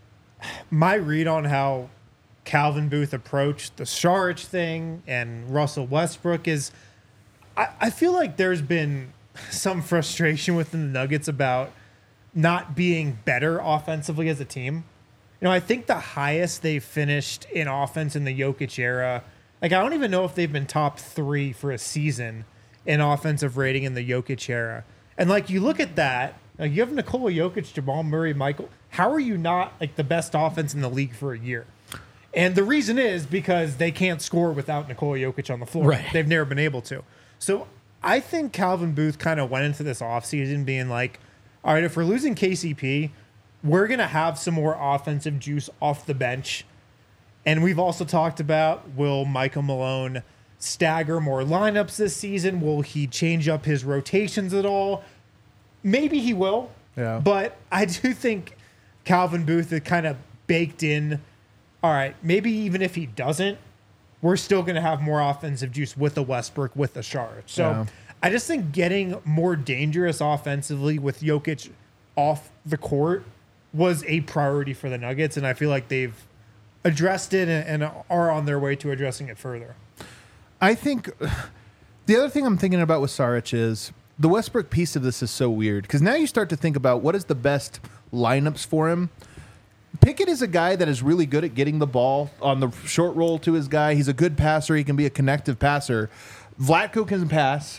Speaker 2: my read on how Calvin Booth approached the Saric thing and Russell Westbrook is I feel like there's been some frustration within the Nuggets about not being better offensively as a team. I think the highest they've finished in offense in the Jokic era, like I don't even know if they've been top 3 for a season in offensive rating in the Jokic era. And like you look at that, like you have Nikola Jokic, Jamal Murray, Michael. How are you not like the best offense in the league for a year? And the reason is because they can't score without Nikola Jokic on the floor.
Speaker 3: Right.
Speaker 2: They've never been able to. So I think Calvin Booth kind of went into this offseason being like, all right, if we're losing KCP, we're going to have some more offensive juice off the bench. And we've also talked about, will Michael Malone stagger more lineups this season? Will he change up his rotations at all? Maybe he will.
Speaker 1: Yeah.
Speaker 2: But I do think Calvin Booth had kind of baked in, all right, maybe even if he doesn't, we're still going to have more offensive juice with the Westbrook, with the Saric. So I just think getting more dangerous offensively with Jokic off the court was a priority for the Nuggets, and I feel like they've addressed it and are on their way to addressing it further.
Speaker 1: I think the other thing I'm thinking about with Saric is the Westbrook piece of this is so weird because now you start to think about what is the best lineups for him. Pickett is a guy that is really good at getting the ball on the short roll to his guy. He's a good passer. He can be a connective passer. Vlatko can pass.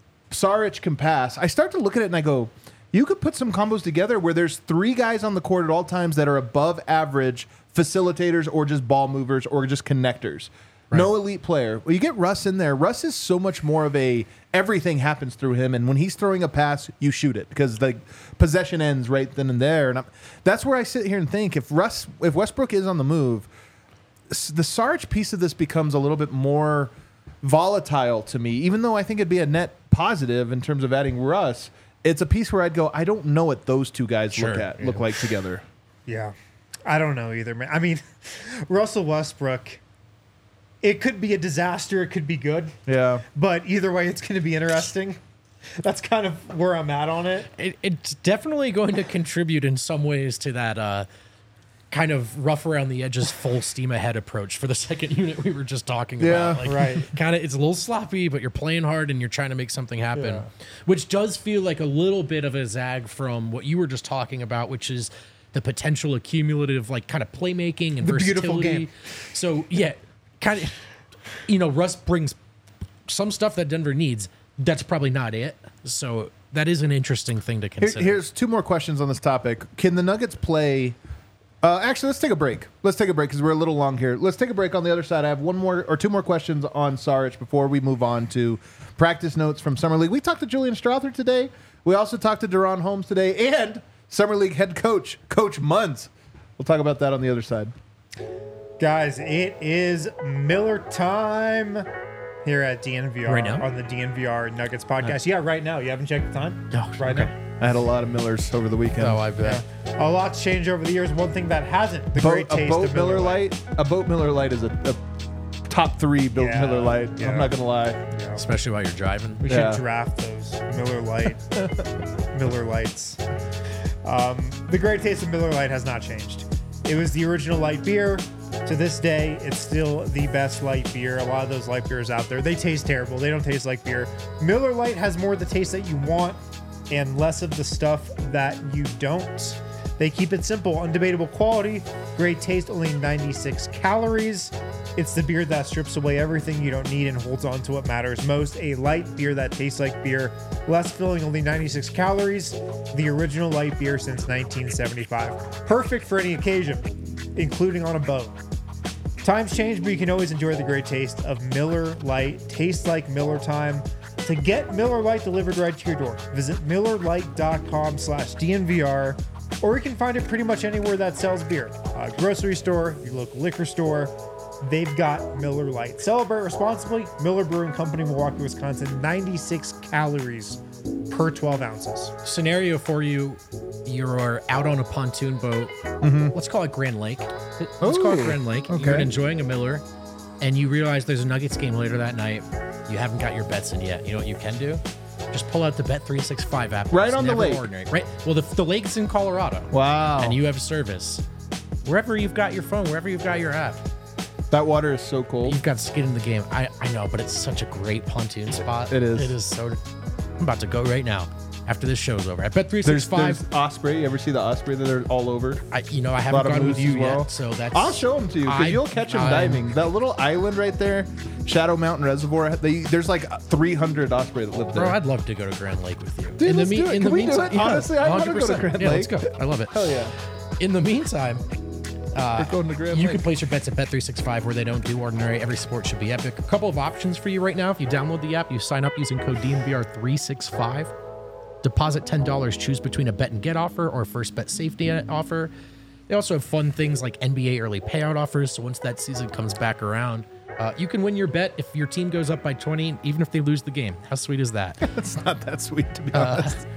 Speaker 1: Saric can pass. I start to look at it and I go, you could put some combos together where there's 3 guys on the court at all times that are above average facilitators or just ball movers or just connectors. Right. No elite player. Well, you get Russ in there. Russ is so much more of everything happens through him, and when he's throwing a pass, you shoot it because the possession ends right then and there. And that's where I sit here and think if Westbrook is on the move, the Saric piece of this becomes a little bit more volatile to me. Even though I think it'd be a net positive in terms of adding Russ, it's a piece where I'd go, I don't know what those two guys look like together.
Speaker 2: Yeah, I don't know either, man. I mean, Russell Westbrook. It could be a disaster. It could be good.
Speaker 1: Yeah.
Speaker 2: But either way, it's going to be interesting. That's kind of where I'm at on it.
Speaker 3: It's definitely going to contribute in some ways to that kind of rough around the edges, full steam ahead approach for the second unit we were just talking
Speaker 1: Yeah,
Speaker 3: about. Like,
Speaker 2: right.
Speaker 3: Kind of, it's a little sloppy, but you're playing hard and you're trying to make something happen,
Speaker 2: Yeah.
Speaker 3: which does feel like a little bit of a zag from what you were just talking about, which is the potential accumulative, like kind of playmaking and
Speaker 1: The
Speaker 3: versatility.
Speaker 1: beautiful game.
Speaker 3: So yeah, kind of, Russ brings some stuff that Denver needs. That's probably not it. So that is an interesting thing to consider.
Speaker 1: Here's two more questions on this topic. Can the Nuggets play? Actually, let's take a break. Let's take a break because we're a little long here. Let's take a break. On the other side, I have one more or two more questions on Saric before we move on to practice notes from Summer League. We talked to Julian Strother today. We also talked to Deron Holmes today and Summer League head coach, Coach Munz. We'll talk about that on the other side.
Speaker 2: Guys, it is Miller time here at DNVR
Speaker 3: Right now?
Speaker 2: on the DNVR Nuggets podcast. Yeah, right now. You haven't checked the time?
Speaker 3: Oh,
Speaker 2: right
Speaker 3: okay.
Speaker 2: now.
Speaker 1: I had a lot of Millers over the weekend.
Speaker 3: Oh, I bet.
Speaker 2: A lot's changed over the years. One thing that hasn't, the great
Speaker 1: A
Speaker 2: taste
Speaker 1: boat
Speaker 2: of
Speaker 1: Miller Lite. A boat Miller Lite is a top 3 built
Speaker 2: Yeah,
Speaker 1: Miller Lite.
Speaker 2: yeah.
Speaker 1: I'm not gonna lie.
Speaker 2: Yeah.
Speaker 3: Especially while you're driving.
Speaker 2: We
Speaker 1: Yeah.
Speaker 2: should draft those Miller Lights. The great taste of Miller Lite has not changed. It was the original light beer. To this day, it's still the best light beer. A lot of those light beers out there, they taste terrible. They don't taste like beer. Miller Lite has more of the taste that you want and less of the stuff that you don't. They keep it simple, undebatable quality, great taste, only 96 calories. It's the beer that strips away everything you don't need and holds on to what matters most. A light beer that tastes like beer, less filling, only 96 calories. The original light beer since 1975. Perfect for any occasion, including on a boat. Times change, but you can always enjoy the great taste of Miller Lite. Tastes like Miller time. To get Miller Lite delivered right to your door, visit MillerLite.com/DNVR, or you can find it pretty much anywhere that sells beer. Grocery store, your local liquor store, they've got Miller Lite. Celebrate responsibly. Miller Brewing Company, Milwaukee, Wisconsin. 96 calories per 12 ounces.
Speaker 3: Scenario for you: you're out on a pontoon boat. Let's call it Grand Lake. Let's call it
Speaker 1: Ooh,
Speaker 3: Grand Lake.
Speaker 1: okay.
Speaker 3: You're enjoying a Miller, and you realize there's a Nuggets game later that night. You haven't got your bets in yet. You know what you can do? Just pull out the Bet365 app.
Speaker 1: Right
Speaker 3: It's
Speaker 1: on the
Speaker 3: never
Speaker 1: lake.
Speaker 3: Ordinary. Right. Well, the lake's in Colorado.
Speaker 1: Wow.
Speaker 3: And you have service. Wherever you've got your phone, wherever you've got your app,
Speaker 1: That water is so cold.
Speaker 3: you've got skin in the game. I know, but it's such a great pontoon spot.
Speaker 1: It is.
Speaker 3: It is so. I'm about to go right now after this show's over. I bet
Speaker 1: There's
Speaker 3: 365.
Speaker 1: Osprey. You ever see the Osprey that are all over?
Speaker 3: I
Speaker 1: lot
Speaker 3: haven't
Speaker 1: of
Speaker 3: gone with
Speaker 1: moose
Speaker 3: you
Speaker 1: as well.
Speaker 3: yet, so that's.
Speaker 1: I'll show them to you because
Speaker 3: I-
Speaker 1: you'll catch them
Speaker 3: I'm-
Speaker 1: diving. That little island right there, Shadow Mountain Reservoir. There's like 300 Osprey that live there.
Speaker 3: Bro, I'd love to go to Grand Lake with you.
Speaker 1: Dude, let's do it. Can we do it?
Speaker 3: yeah,
Speaker 1: Honestly, I wanna go to
Speaker 3: 100%.
Speaker 1: Grand
Speaker 3: Yeah, let's
Speaker 1: Lake.
Speaker 3: go. I love it.
Speaker 1: Hell yeah.
Speaker 3: In the meantime,
Speaker 1: We're going to Grand
Speaker 3: you
Speaker 1: Lake.
Speaker 3: can place your bets at Bet365 where they don't do ordinary. Every sport should be epic. A couple of options for you right now. If you download the app, you sign up using code DNVR365. Deposit $10. Choose between a bet and get offer or first bet safety offer. They also have fun things like NBA early payout offers. So once that season comes back around, you can win your bet if your team goes up by 20, even if they lose the game. How sweet is that?
Speaker 1: It's not that sweet, to be honest.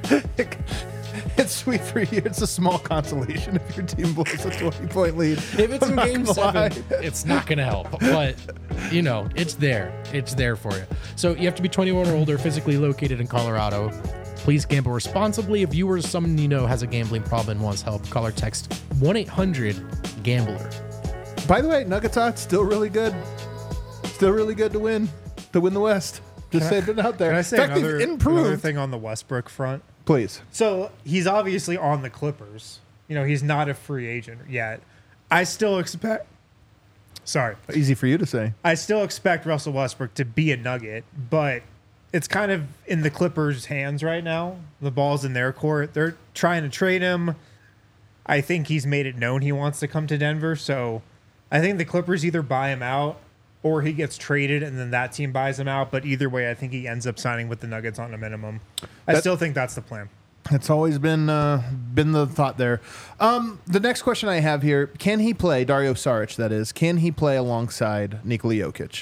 Speaker 1: It's sweet for you. It's a small consolation if your team blows a 20-point lead.
Speaker 3: If it's
Speaker 1: I'm
Speaker 3: in
Speaker 1: not
Speaker 3: game
Speaker 1: gonna
Speaker 3: 7,
Speaker 1: lie.
Speaker 3: it's not going to help. But, it's there. It's there for you. So you have to be 21 or older, physically located in Colorado. Please gamble responsibly. If you or someone you know has a gambling problem and wants help, call or text 1-800-GAMBLER.
Speaker 1: By the way, Nuggets odds still really good. Still really good to win the West. Just saying it out there.
Speaker 2: Can I say
Speaker 1: In fact, they've
Speaker 2: another
Speaker 1: improved.
Speaker 2: thing on the Westbrook front?
Speaker 1: Please.
Speaker 2: So he's obviously on the Clippers. He's not a free agent yet. I still expect. Sorry.
Speaker 1: Easy for you to say.
Speaker 2: I still expect Russell Westbrook to be a Nugget, but it's kind of in the Clippers' hands right now. The ball's in their court. They're trying to trade him. I think he's made it known he wants to come to Denver. So I think the Clippers either buy him out or he gets traded and then that team buys him out. But either way, I think he ends up signing with the Nuggets on a minimum. I still think that's the plan.
Speaker 1: It's always been the thought there. The next question I have here: can he play Dario Saric? That is, can he play alongside Nikola Jokic?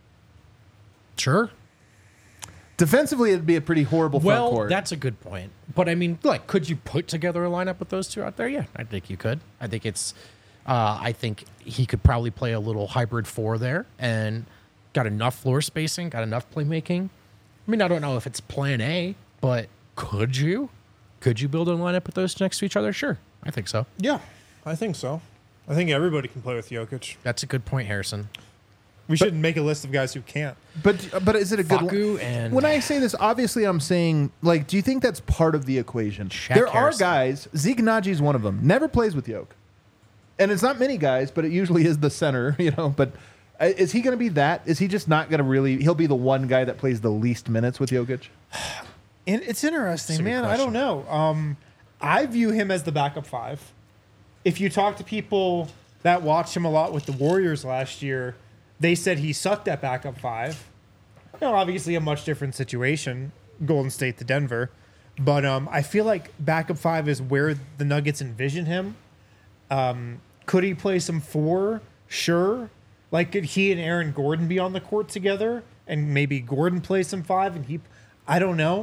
Speaker 3: Sure.
Speaker 1: Defensively, it'd be a pretty horrible front
Speaker 3: Well,
Speaker 1: court.
Speaker 3: that's a good point. But I mean, could you put together a lineup with those two out there? Yeah, I think you could. I think it's. I think he could probably play a little hybrid 4 there and got enough floor spacing, got enough playmaking. I mean, I don't know if it's plan A, but could you? Could you build a lineup with those next to each other? Sure. I think so.
Speaker 4: Yeah, I think so.
Speaker 2: I think everybody can play with Jokic.
Speaker 3: That's a good point, Harrison.
Speaker 2: We should make a list of guys who can't.
Speaker 1: But is it a good
Speaker 3: Facu and
Speaker 1: when I say this, obviously I'm saying, like, do you think that's part of the equation?
Speaker 3: Shaq
Speaker 1: There
Speaker 3: Harrison.
Speaker 1: are guys, Zeke Naji's one of them, never plays with Jokic. And it's not many guys, but it usually is the center, But is he going to be that? Is he just not going to really, he'll be the one guy that plays the least minutes with Jokic?
Speaker 2: And it's interesting,
Speaker 3: That's a good
Speaker 2: man. I don't
Speaker 3: question.
Speaker 2: know. I view him as the backup 5. If you talk to people that watched him a lot with the Warriors last year, they said he sucked at backup 5. Obviously a much different situation, Golden State to Denver. But I feel like backup 5 is where the Nuggets envision him. Could he play some 4? Sure. Like, could he and Aaron Gordon be on the court together? And maybe Gordon play some 5 and he... I don't know.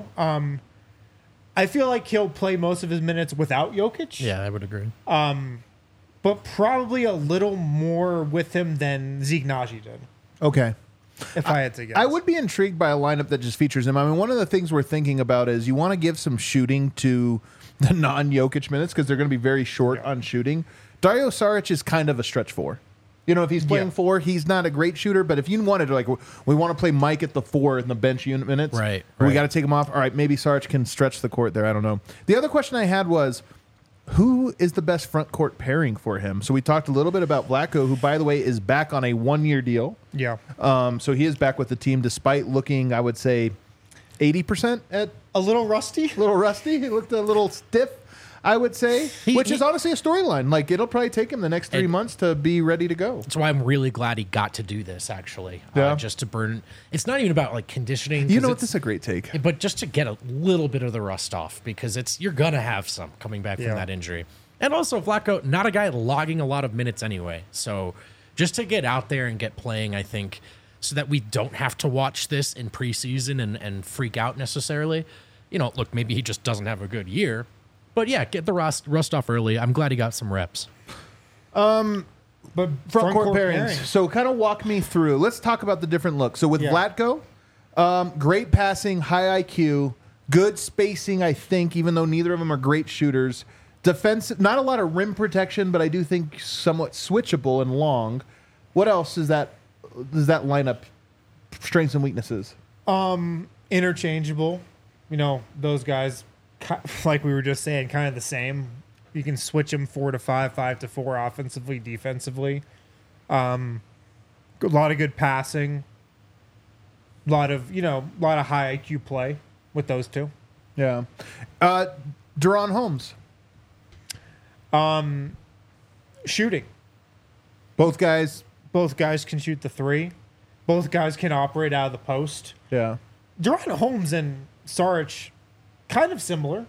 Speaker 2: I feel like he'll play most of his minutes without Jokic.
Speaker 3: Yeah, I would agree.
Speaker 2: But probably a little more with him than Zeke Naji did,
Speaker 1: Okay.
Speaker 2: if I had to guess.
Speaker 1: I would be intrigued by a lineup that just features him. I mean, one of the things we're thinking about is you want to give some shooting to the non-Jokic minutes because they're going to be very short on shooting. Dario Saric is kind of a stretch 4. If he's playing 4, he's not a great shooter. But if you wanted to, like, we want to play Mike at the 4 in the bench unit minutes,
Speaker 3: Right,
Speaker 1: We
Speaker 3: right.
Speaker 1: got to take him off. All right, maybe Saric can stretch the court there. I don't know. The other question I had was, who is the best front court pairing for him? So we talked a little bit about Vlatko, who, by the way, is back on a 1-year deal.
Speaker 2: Yeah.
Speaker 1: So he is back with the team despite looking, I would say, 80% at
Speaker 2: A little rusty.
Speaker 1: a little rusty. He looked a little stiff, I would say, which is honestly a storyline. Like, it'll probably take him the next 3 months to be ready to go.
Speaker 3: That's why I'm really glad he got to do this, actually.
Speaker 1: Yeah.
Speaker 3: Just to burn. It's not even about, like, conditioning.
Speaker 1: You
Speaker 3: 'cause
Speaker 1: know what?
Speaker 3: it's-
Speaker 1: This is a great take.
Speaker 3: But just to get a little bit of the rust off, because you're gonna have some coming back
Speaker 2: Yeah.
Speaker 3: from that injury, and also Vlatko, not a guy logging a lot of minutes anyway. So just to get out there and get playing, I think, so that we don't have to watch this in preseason and freak out necessarily. Look, maybe he just doesn't have a good year, but yeah, get the rust off early. I'm glad he got some reps.
Speaker 2: But
Speaker 1: Front court pairings. So kind of walk me through. Let's talk about the different looks. So with
Speaker 2: Yeah.
Speaker 1: Vlatko, great passing, high IQ, good spacing, I think, even though neither of them are great shooters. Defensive, not a lot of rim protection, but I do think somewhat switchable and long. What else is that lineup strengths and weaknesses?
Speaker 2: Interchangeable. Those guys, like we were just saying, kind of the same. You can switch them 4 to 5, 5 to 4 offensively, defensively. A lot of good passing. A lot of high IQ play with those two.
Speaker 1: Yeah. De'Ron Holmes.
Speaker 2: Shooting.
Speaker 1: Both guys.
Speaker 2: Both guys can shoot the 3. Both guys can operate out of the post.
Speaker 1: Yeah.
Speaker 2: De'Ron Holmes and Saric, kind of similar.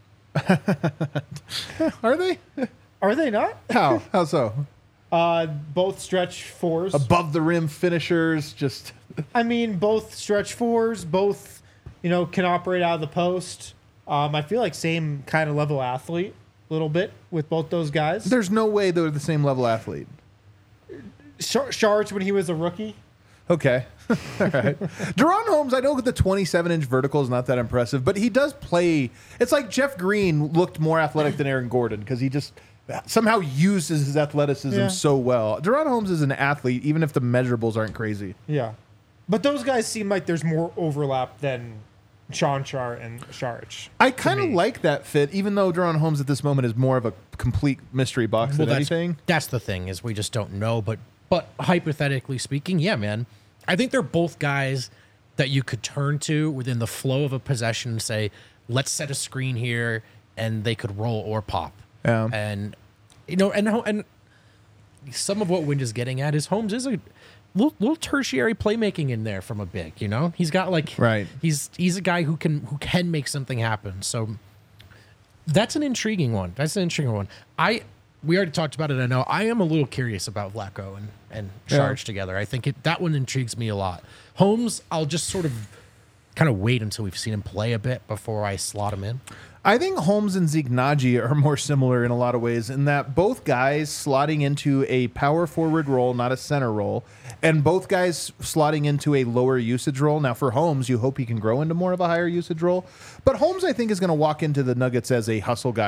Speaker 1: Are they?
Speaker 2: Are they not?
Speaker 1: How? How so?
Speaker 2: Both stretch 4s.
Speaker 1: Above the rim finishers, just
Speaker 2: I mean, both stretch 4s. Both, can operate out of the post. I feel like same kind of level athlete, a little bit with both those guys.
Speaker 1: there's no way they're the same level athlete.
Speaker 2: Saric when he was a rookie.
Speaker 1: Okay. All right. De'Ron Holmes, I know the 27-inch vertical is not that impressive, but he does play. It's like Jeff Green looked more athletic than Aaron Gordon because he just somehow uses his athleticism
Speaker 2: Yeah.
Speaker 1: so well. De'Ron Holmes is an athlete, even if the measurables aren't crazy.
Speaker 2: Yeah. But those guys seem like there's more overlap than Sean Char and Saric.
Speaker 1: I kind of like that fit, even though De'Ron Holmes at this moment is more of a complete mystery box than anything.
Speaker 3: That's the thing, is we just don't know. But hypothetically speaking, yeah, man, I think they're both guys that you could turn to within the flow of a possession and say, let's set a screen here, and they could roll or pop.
Speaker 1: Yeah.
Speaker 3: And and some of what Wind is getting at is Holmes is a little tertiary playmaking in there from a big. He's got
Speaker 1: Right.
Speaker 3: He's a guy who can make something happen. So that's an intriguing one. We already talked about it. I know I am a little curious about Vlatko and Saric together. I think that one intrigues me a lot. Holmes, I'll just sort of kind of wait until we've seen him play a bit before I slot him in.
Speaker 1: I think Holmes and Zeke Naji are more similar in a lot of ways in that both guys slotting into a power forward role, not a center role, and both guys slotting into a lower usage role. Now, for Holmes, you hope he can grow into more of a higher usage role. But Holmes, I think, is going to walk into the Nuggets as a hustle guy,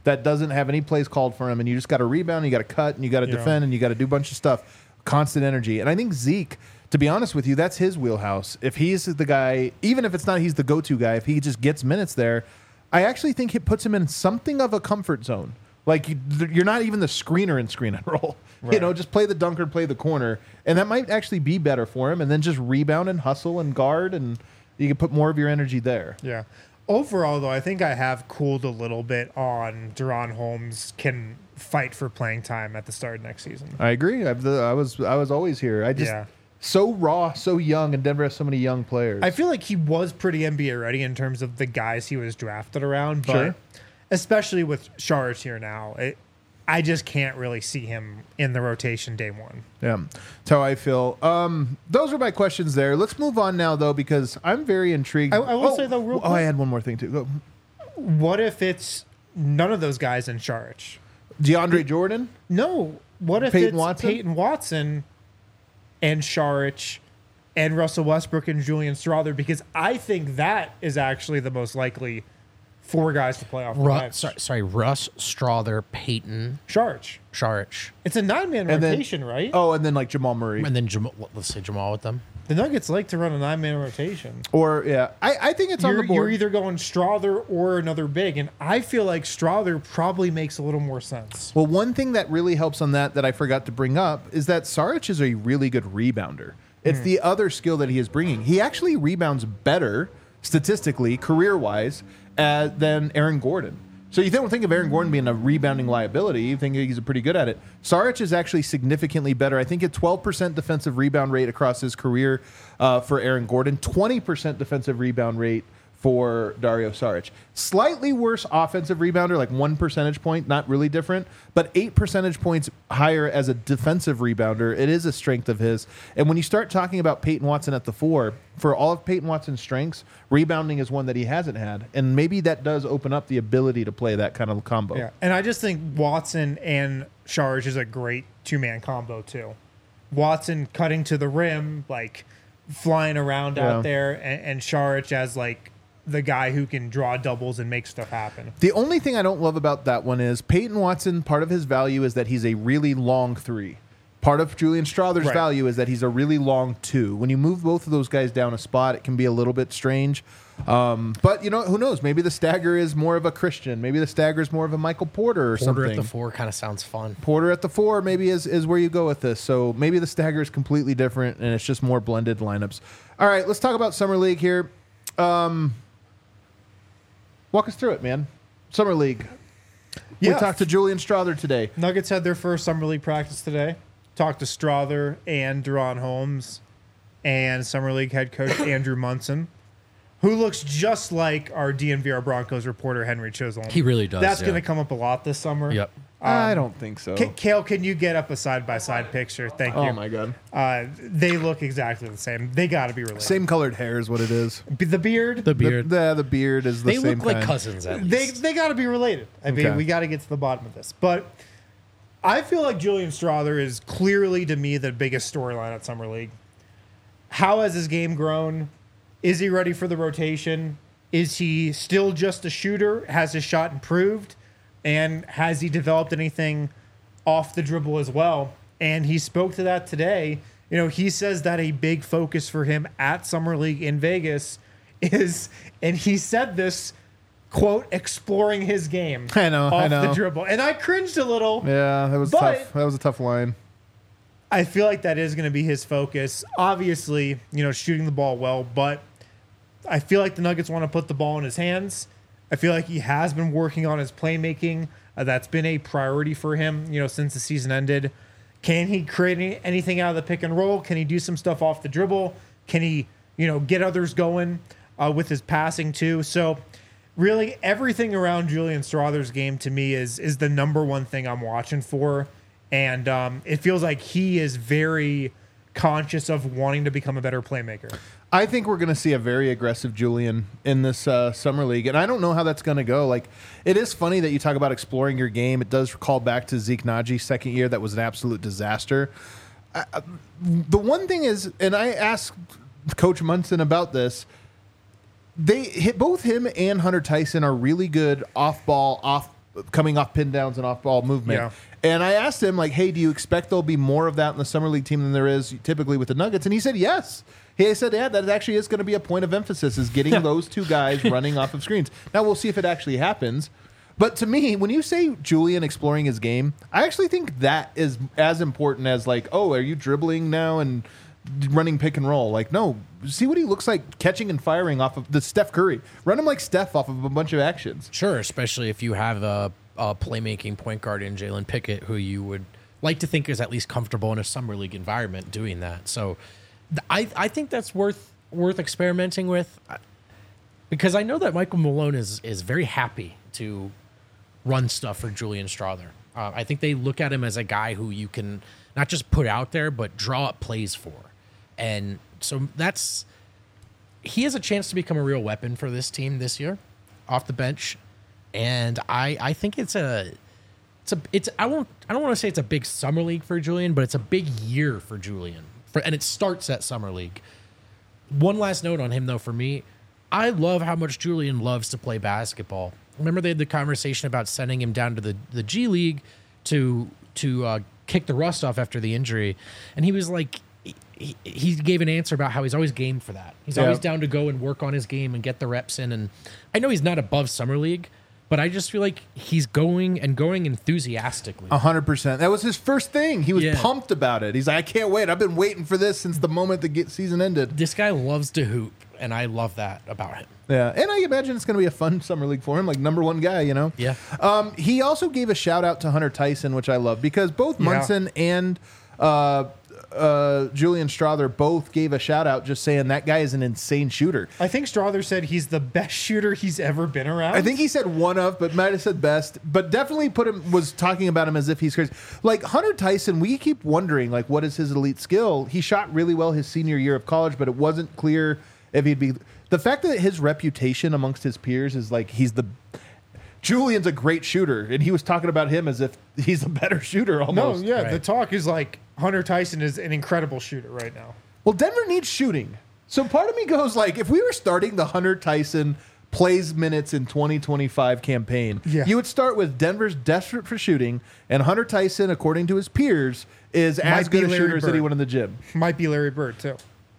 Speaker 1: that doesn't have any plays called for him, and you just got to rebound, and you got to cut, and you got to defend, and you got to do a bunch of stuff. Constant energy. And I think Zeke, to be honest with you, that's his wheelhouse. If he's the guy, even if it's not he's the go-to guy, if he just gets minutes there, I actually think it puts him in something of a comfort zone. Like, you're not even the screener in screen and roll.
Speaker 2: Right.
Speaker 1: You know, just play the dunker, play the corner. And that might actually be better for him. And then just rebound and hustle and guard, and you can put more of your energy there.
Speaker 2: Yeah. Overall, though, I think I have cooled a little bit on De'Ron Holmes can fight for playing time at the start of next season.
Speaker 1: I agree. I was always here. I just so raw, so young, and Denver has so many young players.
Speaker 2: I feel like he was pretty NBA ready in terms of the guys he was drafted around, but
Speaker 1: Sure.
Speaker 2: especially with Saric here now, I just can't really see him in the rotation day one.
Speaker 1: Yeah, that's how I feel. Those are my questions there. Let's move on now, though, because I'm very intrigued.
Speaker 2: I will say, though, real quick,
Speaker 1: I had one more thing, too. Go.
Speaker 2: what if it's none of those guys in Saric?
Speaker 1: DeAndre Jordan?
Speaker 2: No. What if
Speaker 1: Peyton
Speaker 2: it's
Speaker 1: Watson?
Speaker 2: Peyton Watson and Saric and Russell Westbrook and Julian Strawther? Because I think that is actually the most likely 4 guys to play off the bench.
Speaker 3: Russ, Strawther, Peyton,
Speaker 2: Saric. It's a 9-man
Speaker 1: And then-
Speaker 2: rotation, right?
Speaker 1: Oh, and then like Jamal Murray.
Speaker 3: and then Jamal, let's say Jamal with them.
Speaker 2: The Nuggets like to run a 9-man rotation.
Speaker 1: Or, yeah, I think it's on the
Speaker 2: You're
Speaker 1: board.
Speaker 2: either going Strawther or another big, and I feel like Strawther probably makes a little more sense.
Speaker 1: Well, one thing that really helps on that I forgot to bring up is that Saric is a really good rebounder. It's the other skill that he is bringing. He actually rebounds better, statistically, career-wise, than Aaron Gordon. So you don't think of Aaron Gordon being a rebounding liability. You think he's pretty good at it. Saric is actually significantly better. I think a 12% defensive rebound rate across his career for Aaron Gordon, 20% defensive rebound rate for Dario Saric. Slightly worse offensive rebounder, like 1 percentage point, not really different, but 8 percentage points higher as a defensive rebounder. It is a strength of his. And when you start talking about Peyton Watson at the 4, for all of Peyton Watson's strengths, rebounding is one that he hasn't had. And maybe that does open up the ability to play that kind of combo.
Speaker 2: Yeah, and I just think Watson and Saric is a great 2-man combo, too. Watson cutting to the rim, like flying around
Speaker 1: Yeah.
Speaker 2: out there, and Saric as like the guy who can draw doubles and make stuff happen.
Speaker 1: The only thing I don't love about that one is Peyton Watson, part of his value is that he's a really long 3. Part of Julian Strawther's
Speaker 2: Right.
Speaker 1: value is that he's a really long 2. When you move both of those guys down a spot, it can be a little bit strange. But, you know, who knows? Maybe the stagger is more of a Christian. Maybe the stagger is more of a Michael Porter or
Speaker 3: Porter
Speaker 1: something.
Speaker 3: at the 4 kind of sounds fun.
Speaker 1: Porter at the 4 maybe is where you go with this. So maybe the stagger is completely different and it's just more blended lineups. All right, let's talk about Summer League here. Walk us through it, man. Summer League. We
Speaker 2: Yeah.
Speaker 1: talked to Julian Strawther today.
Speaker 2: Nuggets had their first summer league practice today. Talked to Strawther and De'Ron Holmes and summer league head coach Andrew Munson, who looks just like our DNVR Broncos reporter Henry Chisholm.
Speaker 3: He really does.
Speaker 2: That's
Speaker 3: yeah.
Speaker 2: going to come up a lot this summer.
Speaker 3: Yep.
Speaker 1: I don't think so.
Speaker 2: Kale, can you get up a side-by-side picture? Thank you.
Speaker 1: Oh, my God.
Speaker 2: They look exactly the same. They got to be related.
Speaker 1: Same colored hair is what it is.
Speaker 2: The beard,
Speaker 3: The beard.
Speaker 1: The beard is the
Speaker 3: They
Speaker 1: same
Speaker 3: look like
Speaker 1: kind.
Speaker 3: cousins at
Speaker 2: they
Speaker 3: least.
Speaker 2: got to be related. I mean,
Speaker 1: Okay.
Speaker 2: we got to get to the bottom of this. But I feel like Julian Strawther is clearly, to me, the biggest storyline at Summer League. How has his game grown? Is he ready for the rotation? Is he still just a shooter? Has his shot improved? And has he developed anything off the dribble as well? And he spoke to that today. You know, he says that a big focus for him at Summer League in Vegas is, and he said this, quote, exploring his game
Speaker 1: I know,
Speaker 2: off
Speaker 1: I know.
Speaker 2: the dribble. And I cringed a little.
Speaker 1: Yeah, that was
Speaker 2: But-
Speaker 1: tough. That was a tough line.
Speaker 2: I feel like that is going to be his focus. Obviously, you know, shooting the ball well, but I feel like the Nuggets want to put the ball in his hands. I feel like he has been working on his playmaking. That's been a priority for him, you know, since the season ended. Can he create anything out of the pick and roll? Can he do some stuff off the dribble? Can he, you know, get others going with his passing too? So really everything around Julian Strawther's game to me is the number one thing I'm watching for. And it feels like he is very conscious of wanting to become a better playmaker.
Speaker 1: I think we're going to see a very aggressive Julian in this summer league, and I don't know how that's going to go. Like, it is funny that you talk about exploring your game. It does call back to Zeke Naji's second year. That was an absolute disaster. The one thing is, and I asked Coach Munson about this, both him and Hunter Tyson are really good off-ball, coming off pin downs and off ball movement.
Speaker 2: Yeah.
Speaker 1: And I asked him, like, hey, do you expect there'll be more of that in the summer league team than there is typically with the Nuggets? And he said yes. He said, yeah, that actually is going to be a point of emphasis, is getting those two guys running off of screens. Now, we'll see if it actually happens. But to me, when you say Julian exploring his game, I actually think that is as important as, like, oh, are you dribbling now and running pick and roll? Like, no, see what he looks like catching and firing off of the Steph Curry. Run him like Steph off of a bunch of actions.
Speaker 3: Sure, especially if you have a playmaking point guard in Jalen Pickett, who you would like to think is at least comfortable in a summer league environment doing that. So I think that's worth experimenting with, because I know that Michael Malone is very happy to run stuff for Julian Strawther. I think they look at him as a guy who you can not just put out there, but draw up plays for. And so he has a chance to become a real weapon for this team this year off the bench. And I think I don't want to say it's a big summer league for Julian, but it's a big year for Julian. And it starts at summer league. One last note on him, though, for me, I love how much Julian loves to play basketball. Remember they had the conversation about sending him down to the G League to kick the rust off after the injury, and he was like, he gave an answer about how he's always game for that. He's always down to go and work on his game and get the reps in. And I know he's not above summer league, but I just feel like he's going enthusiastically.
Speaker 1: 100%. That was his first thing. He was pumped about it. He's like, I can't wait. I've been waiting for this since the moment the season ended.
Speaker 3: This guy loves to hoop, and I love that about him.
Speaker 1: Yeah, and I imagine it's going to be a fun summer league for him, like number one guy, you know?
Speaker 3: Yeah.
Speaker 1: He also gave a shout out to Hunter Tyson, which I love, because both Munson and Julian Strawther both gave a shout out just saying that guy is an insane shooter.
Speaker 2: I think Strawther said he's the best shooter he's ever been around.
Speaker 1: I think he said one of, but might have said best, but definitely was talking about him as if he's crazy. Like Hunter Tyson, we keep wondering, like, what is his elite skill? He shot really well his senior year of college, but it wasn't clear if he'd be. The fact that his reputation amongst his peers is like Julian's a great shooter, and he was talking about him as if he's a better shooter almost.
Speaker 2: No, yeah,
Speaker 3: Right.
Speaker 2: The talk is like Hunter Tyson is an incredible shooter right now.
Speaker 1: Well, Denver needs shooting. So part of me goes like, if we were starting the Hunter Tyson plays minutes in 2025 campaign, you would start with Denver's desperate for shooting, and Hunter Tyson, according to his peers, is as good a shooter as anyone in the gym.
Speaker 2: Might be Larry Bird, too.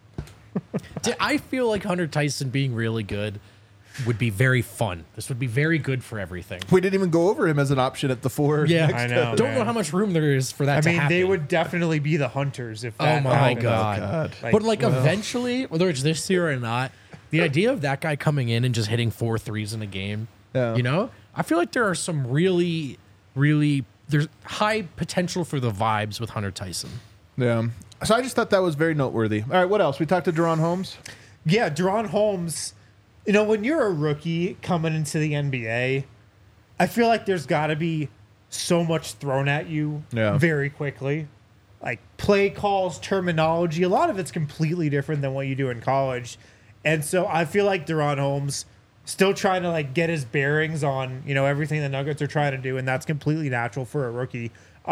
Speaker 3: I feel like Hunter Tyson being really good would be very fun. This would be very good for everything.
Speaker 1: We didn't even go over him as an option at the 4.
Speaker 3: Yeah,
Speaker 2: I know.
Speaker 3: Don't know how much room there is for that to happen.
Speaker 2: They would definitely be the Hunters if that
Speaker 3: Oh my
Speaker 2: happened.
Speaker 3: God. But eventually, whether it's this year or not, the idea of that guy coming in and just hitting 4 threes in a game, you know, I feel like there are some really, really, there's high potential for the vibes with Hunter Tyson.
Speaker 1: Yeah. So I just thought that was very noteworthy. All right, what else? We talked to De'Ron Holmes.
Speaker 2: Yeah, De'Ron Holmes, you know, when you're a rookie coming into the NBA, I feel like there's got to be so much thrown at you very quickly. Like play calls, terminology, a lot of it's completely different than what you do in college. And so I feel like De'Ron Holmes still trying to like get his bearings on, you know, everything the Nuggets are trying to do, and that's completely natural for a rookie.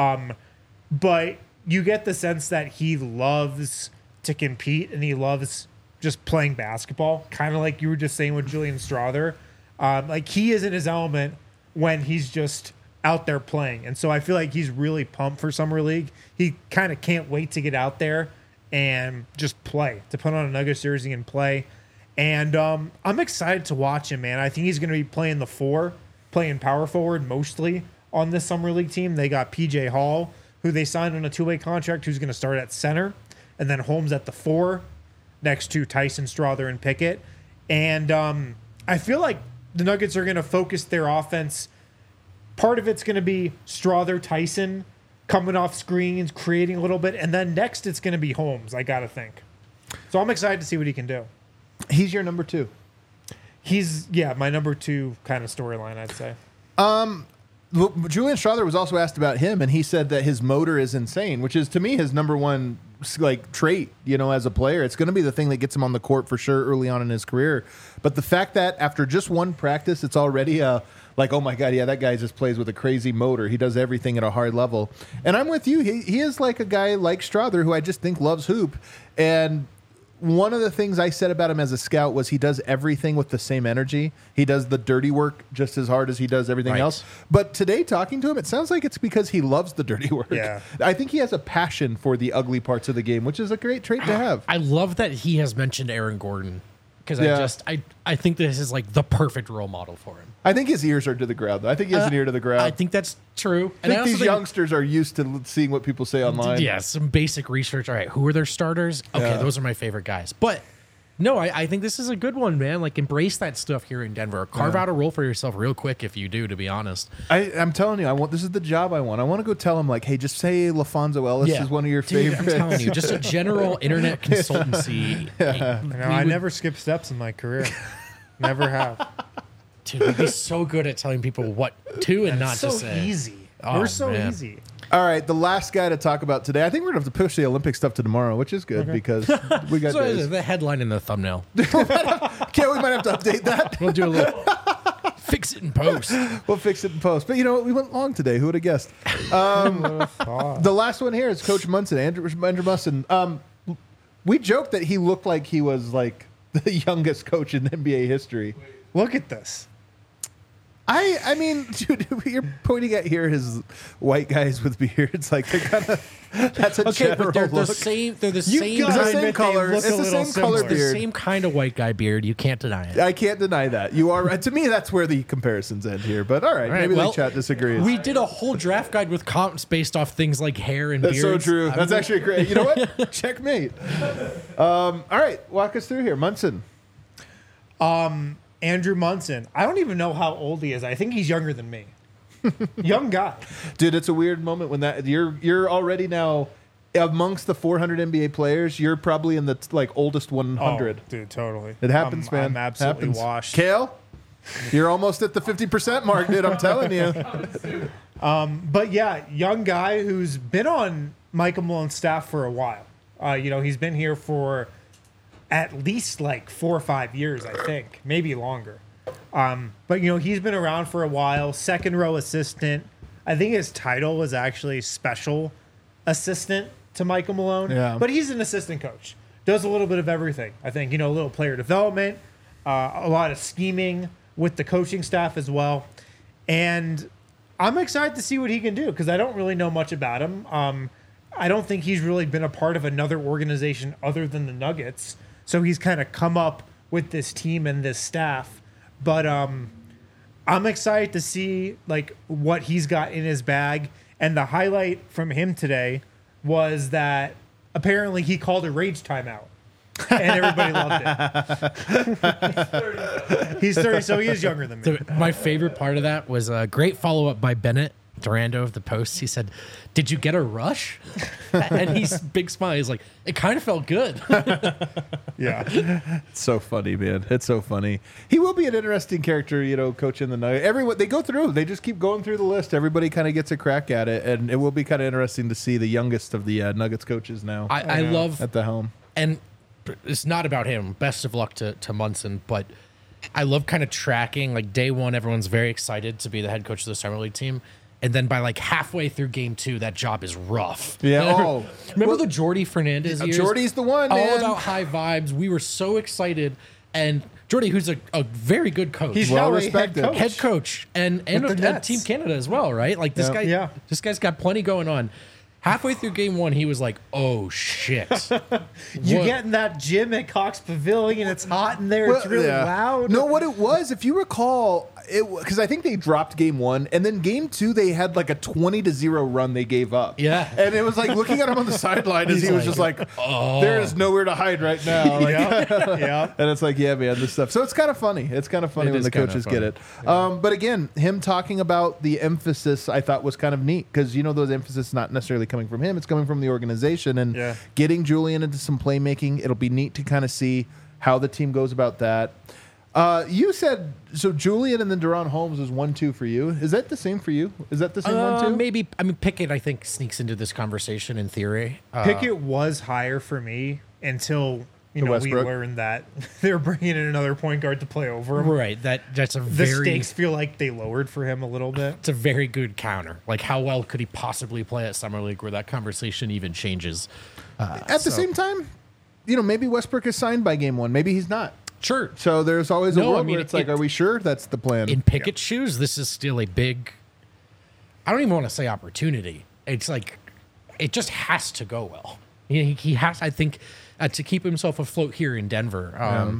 Speaker 2: But you get the sense that he loves to compete and he loves just playing basketball, kind of like you were just saying with Julian Strawther. Like he is in his element when he's just out there playing. And so I feel like he's really pumped for Summer League. He kind of can't wait to get out there and just play, to put on a Nuggets jersey and play. And I'm excited to watch him, man. I think he's going to be playing the 4, playing power forward mostly on this Summer League team. They got PJ Hall, who they signed on a 2-way contract, who's going to start at center, and then Holmes at the 4, next to Tyson, Strawther, and Pickett. And I feel like the Nuggets are going to focus their offense. Part of it's going to be Strawther, Tyson coming off screens, creating a little bit, and then next it's going to be Holmes, I got to think. So I'm excited to see what he can do.
Speaker 1: He's your number 2.
Speaker 2: He's, my number 2 kind of storyline, I'd say.
Speaker 1: Julian Strawther was also asked about him, and he said that his motor is insane, which is to me his number one like trait, you know, as a player. It's going to be the thing that gets him on the court for sure early on in his career. But the fact that after just one practice, it's already like, oh my God, yeah, that guy just plays with a crazy motor. He does everything at a hard level. And I'm with you. He is like a guy like Strawther who I just think loves hoop. And one of the things I said about him as a scout was he does everything with the same energy. He does the dirty work just as hard as he does everything
Speaker 3: Right.
Speaker 1: else. But today, talking to him, it sounds like it's because he loves the dirty work.
Speaker 2: Yeah.
Speaker 1: I think he has a passion for the ugly parts of the game, which is a great trait to have.
Speaker 3: I love that he has mentioned Aaron Gordon because
Speaker 1: Yeah.
Speaker 3: I think this is like the perfect role model for him.
Speaker 1: I think his ears are to the ground, though. I think he has an ear to the ground.
Speaker 3: I think that's true.
Speaker 1: I think these youngsters are used to seeing what people say online.
Speaker 3: Yeah, some basic research. All right, who are their starters? Okay,
Speaker 1: Yeah.
Speaker 3: those are my favorite guys. But no, I think this is a good one, man. Like, embrace that stuff here in Denver. Carve out a role for yourself real quick if you do, to be honest.
Speaker 1: I'm telling you, this is the job I want. I want to go tell him, like, hey, just say LaFonso Ellis is one of your
Speaker 3: Dude,
Speaker 1: favorites.
Speaker 3: I'm telling you, just a general internet consultancy.
Speaker 2: I never skipped steps in my career. Never have.
Speaker 3: Dude, we'd be so good at telling people what to and not
Speaker 2: so
Speaker 3: to say.
Speaker 2: easy.
Speaker 3: Oh,
Speaker 2: We're so
Speaker 3: man.
Speaker 2: easy.
Speaker 1: All right, the last guy to talk about today. I think we're going to have to push the Olympic stuff to tomorrow, which is good because we got
Speaker 3: So
Speaker 1: days.
Speaker 3: the headline in the thumbnail.
Speaker 1: We might have to update that.
Speaker 3: We'll do a little fix it in post.
Speaker 1: We'll fix it in post. But you know what? We went long today. Who would have guessed? The last one here is Coach Munson, Andrew Munson. We joked that he looked like he was like the youngest coach in NBA history.
Speaker 2: Look at this.
Speaker 1: I mean, dude, you're pointing at here his white guys with beards. Like they're kind of that's a
Speaker 3: Okay,
Speaker 1: general
Speaker 3: but they're the
Speaker 1: look.
Speaker 3: same. They're the
Speaker 2: You
Speaker 3: same.
Speaker 2: got
Speaker 1: It's the
Speaker 2: I
Speaker 1: same
Speaker 2: admit they
Speaker 1: color.
Speaker 2: look
Speaker 1: It's
Speaker 2: a
Speaker 1: the
Speaker 2: little
Speaker 1: same color
Speaker 2: similar.
Speaker 3: the
Speaker 1: beard.
Speaker 3: same kind of white guy beard. You can't deny it.
Speaker 1: I can't deny that. You are right. To me, that's where the comparisons end here. But all right,
Speaker 3: All right,
Speaker 1: maybe
Speaker 3: well,
Speaker 1: the chat disagrees.
Speaker 3: We did a whole draft guide with comps based off things like hair and
Speaker 1: That's so
Speaker 3: beards.
Speaker 1: true.
Speaker 3: I'm-
Speaker 1: That's actually great. You know what? Checkmate. All right, walk us through here, Munson.
Speaker 2: Andrew Munson. I don't even know how old he is. I think he's younger than me. Young guy.
Speaker 1: Dude, it's a weird moment when that you're already now amongst the 400 NBA players. You're probably in the like oldest 100.
Speaker 2: Oh, dude, totally.
Speaker 1: It happens, man.
Speaker 2: I'm absolutely
Speaker 1: Happens.
Speaker 2: washed.
Speaker 1: Kale, you're almost at the 50% mark, dude. I'm telling you.
Speaker 2: But yeah, young guy who's been on Michael Malone's staff for a while. He's been here for at least like 4 or 5 years, I think, maybe longer. But he's been around for a while. Second row assistant. I think his title was actually special assistant to Michael Malone.
Speaker 1: Yeah.
Speaker 2: But he's an assistant coach. Does a little bit of everything. I think a little player development, a lot of scheming with the coaching staff as well. And I'm excited to see what he can do because I don't really know much about him. I don't think he's really been a part of another organization other than the Nuggets. So he's kind of come up with this team and this staff. But I'm excited to see like what he's got in his bag. And the highlight from him today was that apparently he called a rage timeout. And everybody loved it. He's 30, so he is younger than me.
Speaker 3: My favorite part of that was a great follow up by Bennett Durando of the Post. He said, "Did you get a rush?" And he's big smile. He's like, "It kind of felt good."
Speaker 2: Yeah.
Speaker 1: It's so funny, man. It's so funny. He will be an interesting character, coaching the Nuggets. Everyone they go through. They just keep going through the list. Everybody kind of gets a crack at it, and it will be kind of interesting to see the youngest of the Nuggets coaches now
Speaker 3: I love,
Speaker 1: at the helm.
Speaker 3: and it's not about him. Best of luck to Munson, but I love kind of tracking. Like day one, everyone's very excited to be the head coach of the summer league team. And then by like halfway through game 2, that job is rough.
Speaker 1: Yeah. Oh,
Speaker 3: Remember the Jordy Fernandez years?
Speaker 1: Jordy's the one,
Speaker 3: All
Speaker 1: man.
Speaker 3: about high vibes. We were so excited. And Jordy, who's a very good coach.
Speaker 2: He's
Speaker 1: Well
Speaker 2: now a
Speaker 1: respected.
Speaker 3: head coach and
Speaker 2: With the Nets.
Speaker 3: Team Canada as well, right? Like this
Speaker 1: Yeah.
Speaker 3: guy,
Speaker 2: Yeah.
Speaker 3: this guy's got plenty going on. Halfway through game 1, he was like, "Oh shit!"
Speaker 2: You
Speaker 3: What-
Speaker 2: get in that gym at Cox Pavilion, it's hot in there, it's really
Speaker 1: yeah.
Speaker 2: loud.
Speaker 1: No, what it was, if you recall, because I think they dropped game 1, and then game 2 they had like a 20-0 run they gave up.
Speaker 3: Yeah.
Speaker 1: and it was like looking at him on the sideline as
Speaker 3: He's
Speaker 1: he was
Speaker 3: like,
Speaker 1: just like, "There is nowhere to hide right now." Like,
Speaker 2: Yeah.
Speaker 1: and it's like, yeah, man, this stuff. So it's kind of funny. It's kind of funny
Speaker 3: It
Speaker 1: when
Speaker 3: is
Speaker 1: the
Speaker 3: kinda
Speaker 1: coaches
Speaker 3: funny.
Speaker 1: get it. But again, him talking about the emphasis, I thought was kind of neat because those emphasis not necessarily coming from him; it's coming from the organization and
Speaker 2: Yeah.
Speaker 1: getting Julian into some playmaking. It'll be neat to kind of see how the team goes about that. You said so. Julian and then Deron Holmes is 1-2 for you. Is that the same for you? Is that the same 1-2?
Speaker 3: maybe. I mean, Pickett, I think, sneaks into this conversation in theory.
Speaker 2: Pickett was higher for me until we
Speaker 1: Westbrook.
Speaker 2: learned that they're bringing in another point guard to play over him.
Speaker 3: Right. That's a
Speaker 2: The
Speaker 3: very.
Speaker 2: stakes feel like they lowered for him a little bit.
Speaker 3: It's a very good counter. Like, how well could he possibly play at Summer League where that conversation even changes?
Speaker 1: At the same time, maybe Westbrook is signed by game 1. Maybe he's not.
Speaker 3: Sure.
Speaker 1: So there's always a
Speaker 3: No, I
Speaker 1: world
Speaker 3: mean,
Speaker 1: where it's like, are we sure that's the plan?
Speaker 3: In Pickett's shoes, this is still a big, I don't even want to say opportunity. It's like, it just has to go well. He has, I think, to keep himself afloat here in Denver.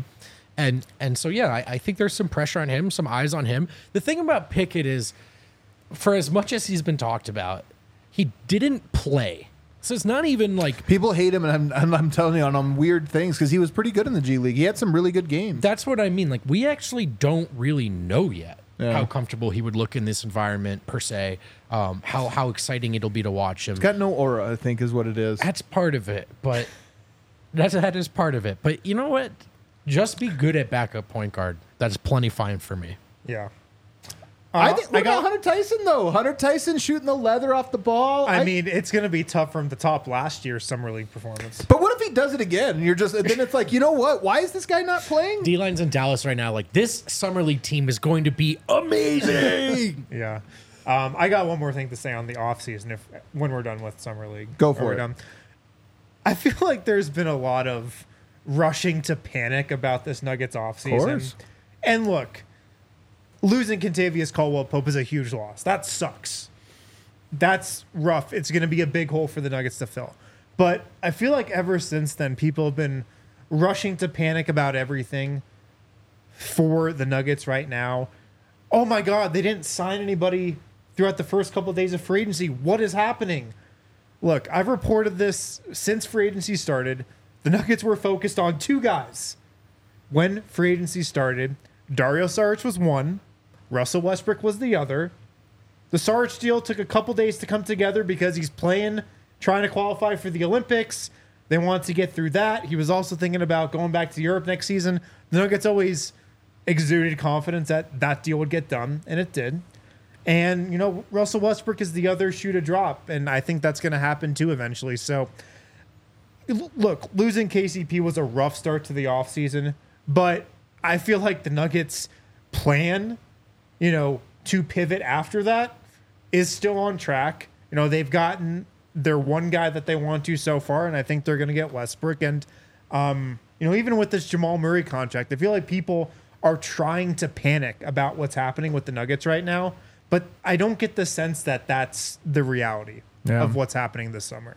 Speaker 3: And so, yeah, I think there's some pressure on him, some eyes on him. The thing about Pickett is, for as much as he's been talked about, he didn't play. So it's not even like...
Speaker 1: People hate him, and I'm telling you on weird things because he was pretty good in the G League. He had some really good games.
Speaker 3: That's what I mean. Like, we actually don't really know yet how comfortable he would look in this environment, per se. How exciting it'll be to watch him.
Speaker 1: He's got no aura, I think, is what it is.
Speaker 3: That's part of it, but that is part of it. But you know what? Just be good at backup point guard. That's plenty fine for me.
Speaker 2: Yeah.
Speaker 1: I think look at Hunter Tyson though. Hunter Tyson shooting the leather off the ball.
Speaker 2: I mean, it's going to be tough from the top last year's summer league performance.
Speaker 1: But what if he does it again? And then it's like, you know what? Why is this guy not playing?
Speaker 3: D-Line's in Dallas right now. Like, this summer league team is going to be amazing.
Speaker 2: Yeah. I got one more thing to say on the offseason when we're done with summer league.
Speaker 1: Go for it.
Speaker 2: Done. I feel like there's been a lot of rushing to panic about this Nuggets offseason.
Speaker 1: Of course.
Speaker 2: And look, losing Kentavious Caldwell-Pope is a huge loss. That sucks. That's rough. It's going to be a big hole for the Nuggets to fill. But I feel like ever since then, people have been rushing to panic about everything for the Nuggets right now. Oh my God, they didn't sign anybody throughout the first couple of days of free agency. What is happening? Look, I've reported this since free agency started. The Nuggets were focused on 2 guys. When free agency started, Dario Saric was one. Russell Westbrook was the other. The Saric deal took a couple days to come together because he's trying to qualify for the Olympics. They wanted to get through that. He was also thinking about going back to Europe next season. The Nuggets always exuded confidence that that deal would get done, and it did. And, Russell Westbrook is the other shoe to drop, and I think that's going to happen too eventually. So, look, losing KCP was a rough start to the offseason, but I feel like the Nuggets' plan, to pivot after that is still on track. They've gotten their one guy that they want to so far, and I think they're going to get Westbrook. And, even with this Jamal Murray contract, I feel like people are trying to panic about what's happening with the Nuggets right now, but I don't get the sense that that's the reality of what's happening this summer.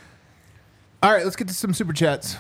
Speaker 1: All right, let's get to some super chats.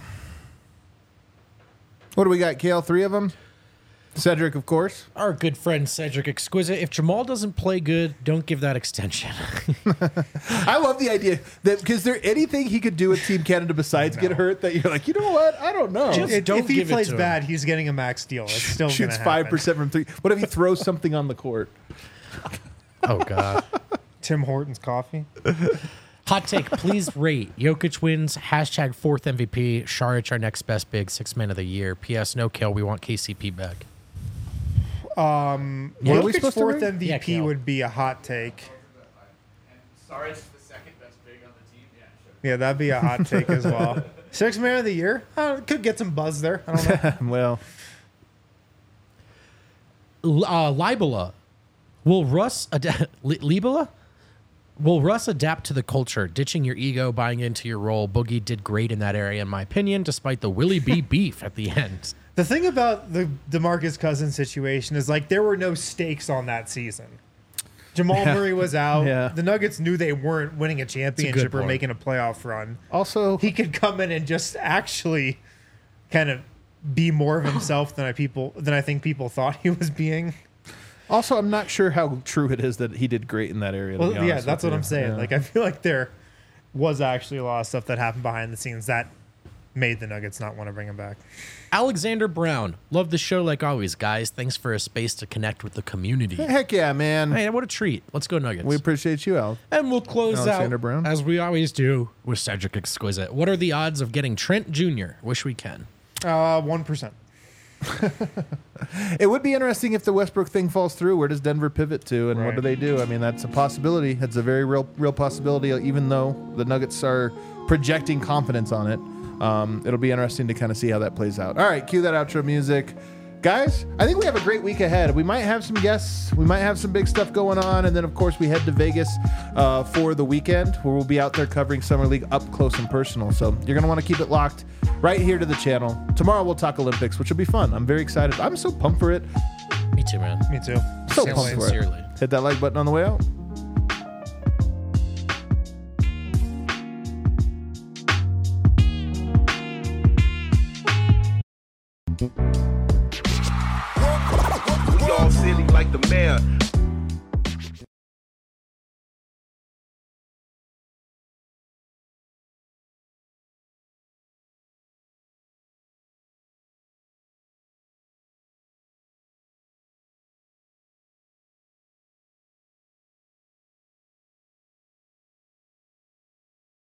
Speaker 1: What do we got, Kale? 3 of them? Cedric, of course.
Speaker 3: Our good friend Cedric Exquisite. If Jamal doesn't play good, don't give that extension.
Speaker 1: I love the idea that because there anything he could do with Team Canada besides get hurt that you're like, you know what? I don't know.
Speaker 2: If he plays bad, he's getting a max deal. It's still
Speaker 1: shoots
Speaker 2: gonna
Speaker 1: 5% from 3. What if he throws something on the court?
Speaker 3: Oh God.
Speaker 2: Tim Hortons coffee.
Speaker 3: Hot take, please rate. Jokic wins, #4th MVP. Saric, our next best big, 6th man of the year. P.S. No kill. We want KCP back.
Speaker 2: Jokic's 4th MVP would be a hot take.
Speaker 4: Saric's the 2nd best big on the team. Yeah, sure.
Speaker 2: Yeah, that'd be a hot take as well. 6th man of the year? Could get some buzz there. I don't know.
Speaker 1: Well,
Speaker 3: Libela. Will Russ Libela? Will Russ adapt to the culture, ditching your ego, buying into your role? Boogie did great in that area, in my opinion, despite the Willie B beef at the end.
Speaker 2: The thing about the DeMarcus Cousins situation is there were no stakes on that season. Jamal Murray was out.
Speaker 1: Yeah.
Speaker 2: The Nuggets knew they weren't winning a championship or making a playoff run.
Speaker 1: Also,
Speaker 2: he could come in and just actually kind of be more of himself than I think people thought he was being.
Speaker 1: Also, I'm not sure how true it is that he did great in that area.
Speaker 2: Well, yeah, that's what I'm saying.
Speaker 1: Yeah.
Speaker 2: I feel like there was actually a lot of stuff that happened behind the scenes that made the Nuggets not want to bring him back.
Speaker 3: Alexander Brown. Love the show like always, guys. Thanks for a space to connect with the community.
Speaker 1: Heck yeah, man.
Speaker 3: Hey, what a treat. Let's go Nuggets.
Speaker 1: We appreciate you, Al.
Speaker 3: And we'll close
Speaker 1: Alexander
Speaker 3: out,
Speaker 1: Brown.
Speaker 3: as we always do, with Cedric Exquisite. What are the odds of getting Trent Jr.? Wish we can.
Speaker 2: 1%.
Speaker 1: It would be interesting if the Westbrook thing falls through. Where does Denver pivot to, and what do they do? I mean, that's a possibility. It's a very real possibility, even though the Nuggets are projecting confidence on it. It'll be interesting to kind of see how that plays out. All right, cue that outro music. Guys, I think we have a great week ahead. We might have some guests. We might have some big stuff going on. And then, of course, we head to Vegas for the weekend where we'll be out there covering Summer League up close and personal. So you're going to want to keep it locked right here to the channel. Tomorrow we'll talk Olympics, which will be fun. I'm very excited. I'm so pumped for it.
Speaker 3: Me too, man.
Speaker 2: Me too.
Speaker 1: So
Speaker 2: Can't
Speaker 1: pumped
Speaker 2: wait.
Speaker 1: for it.
Speaker 3: Sincerely.
Speaker 1: Hit that like button on the way out.
Speaker 5: We all silly like the mayor.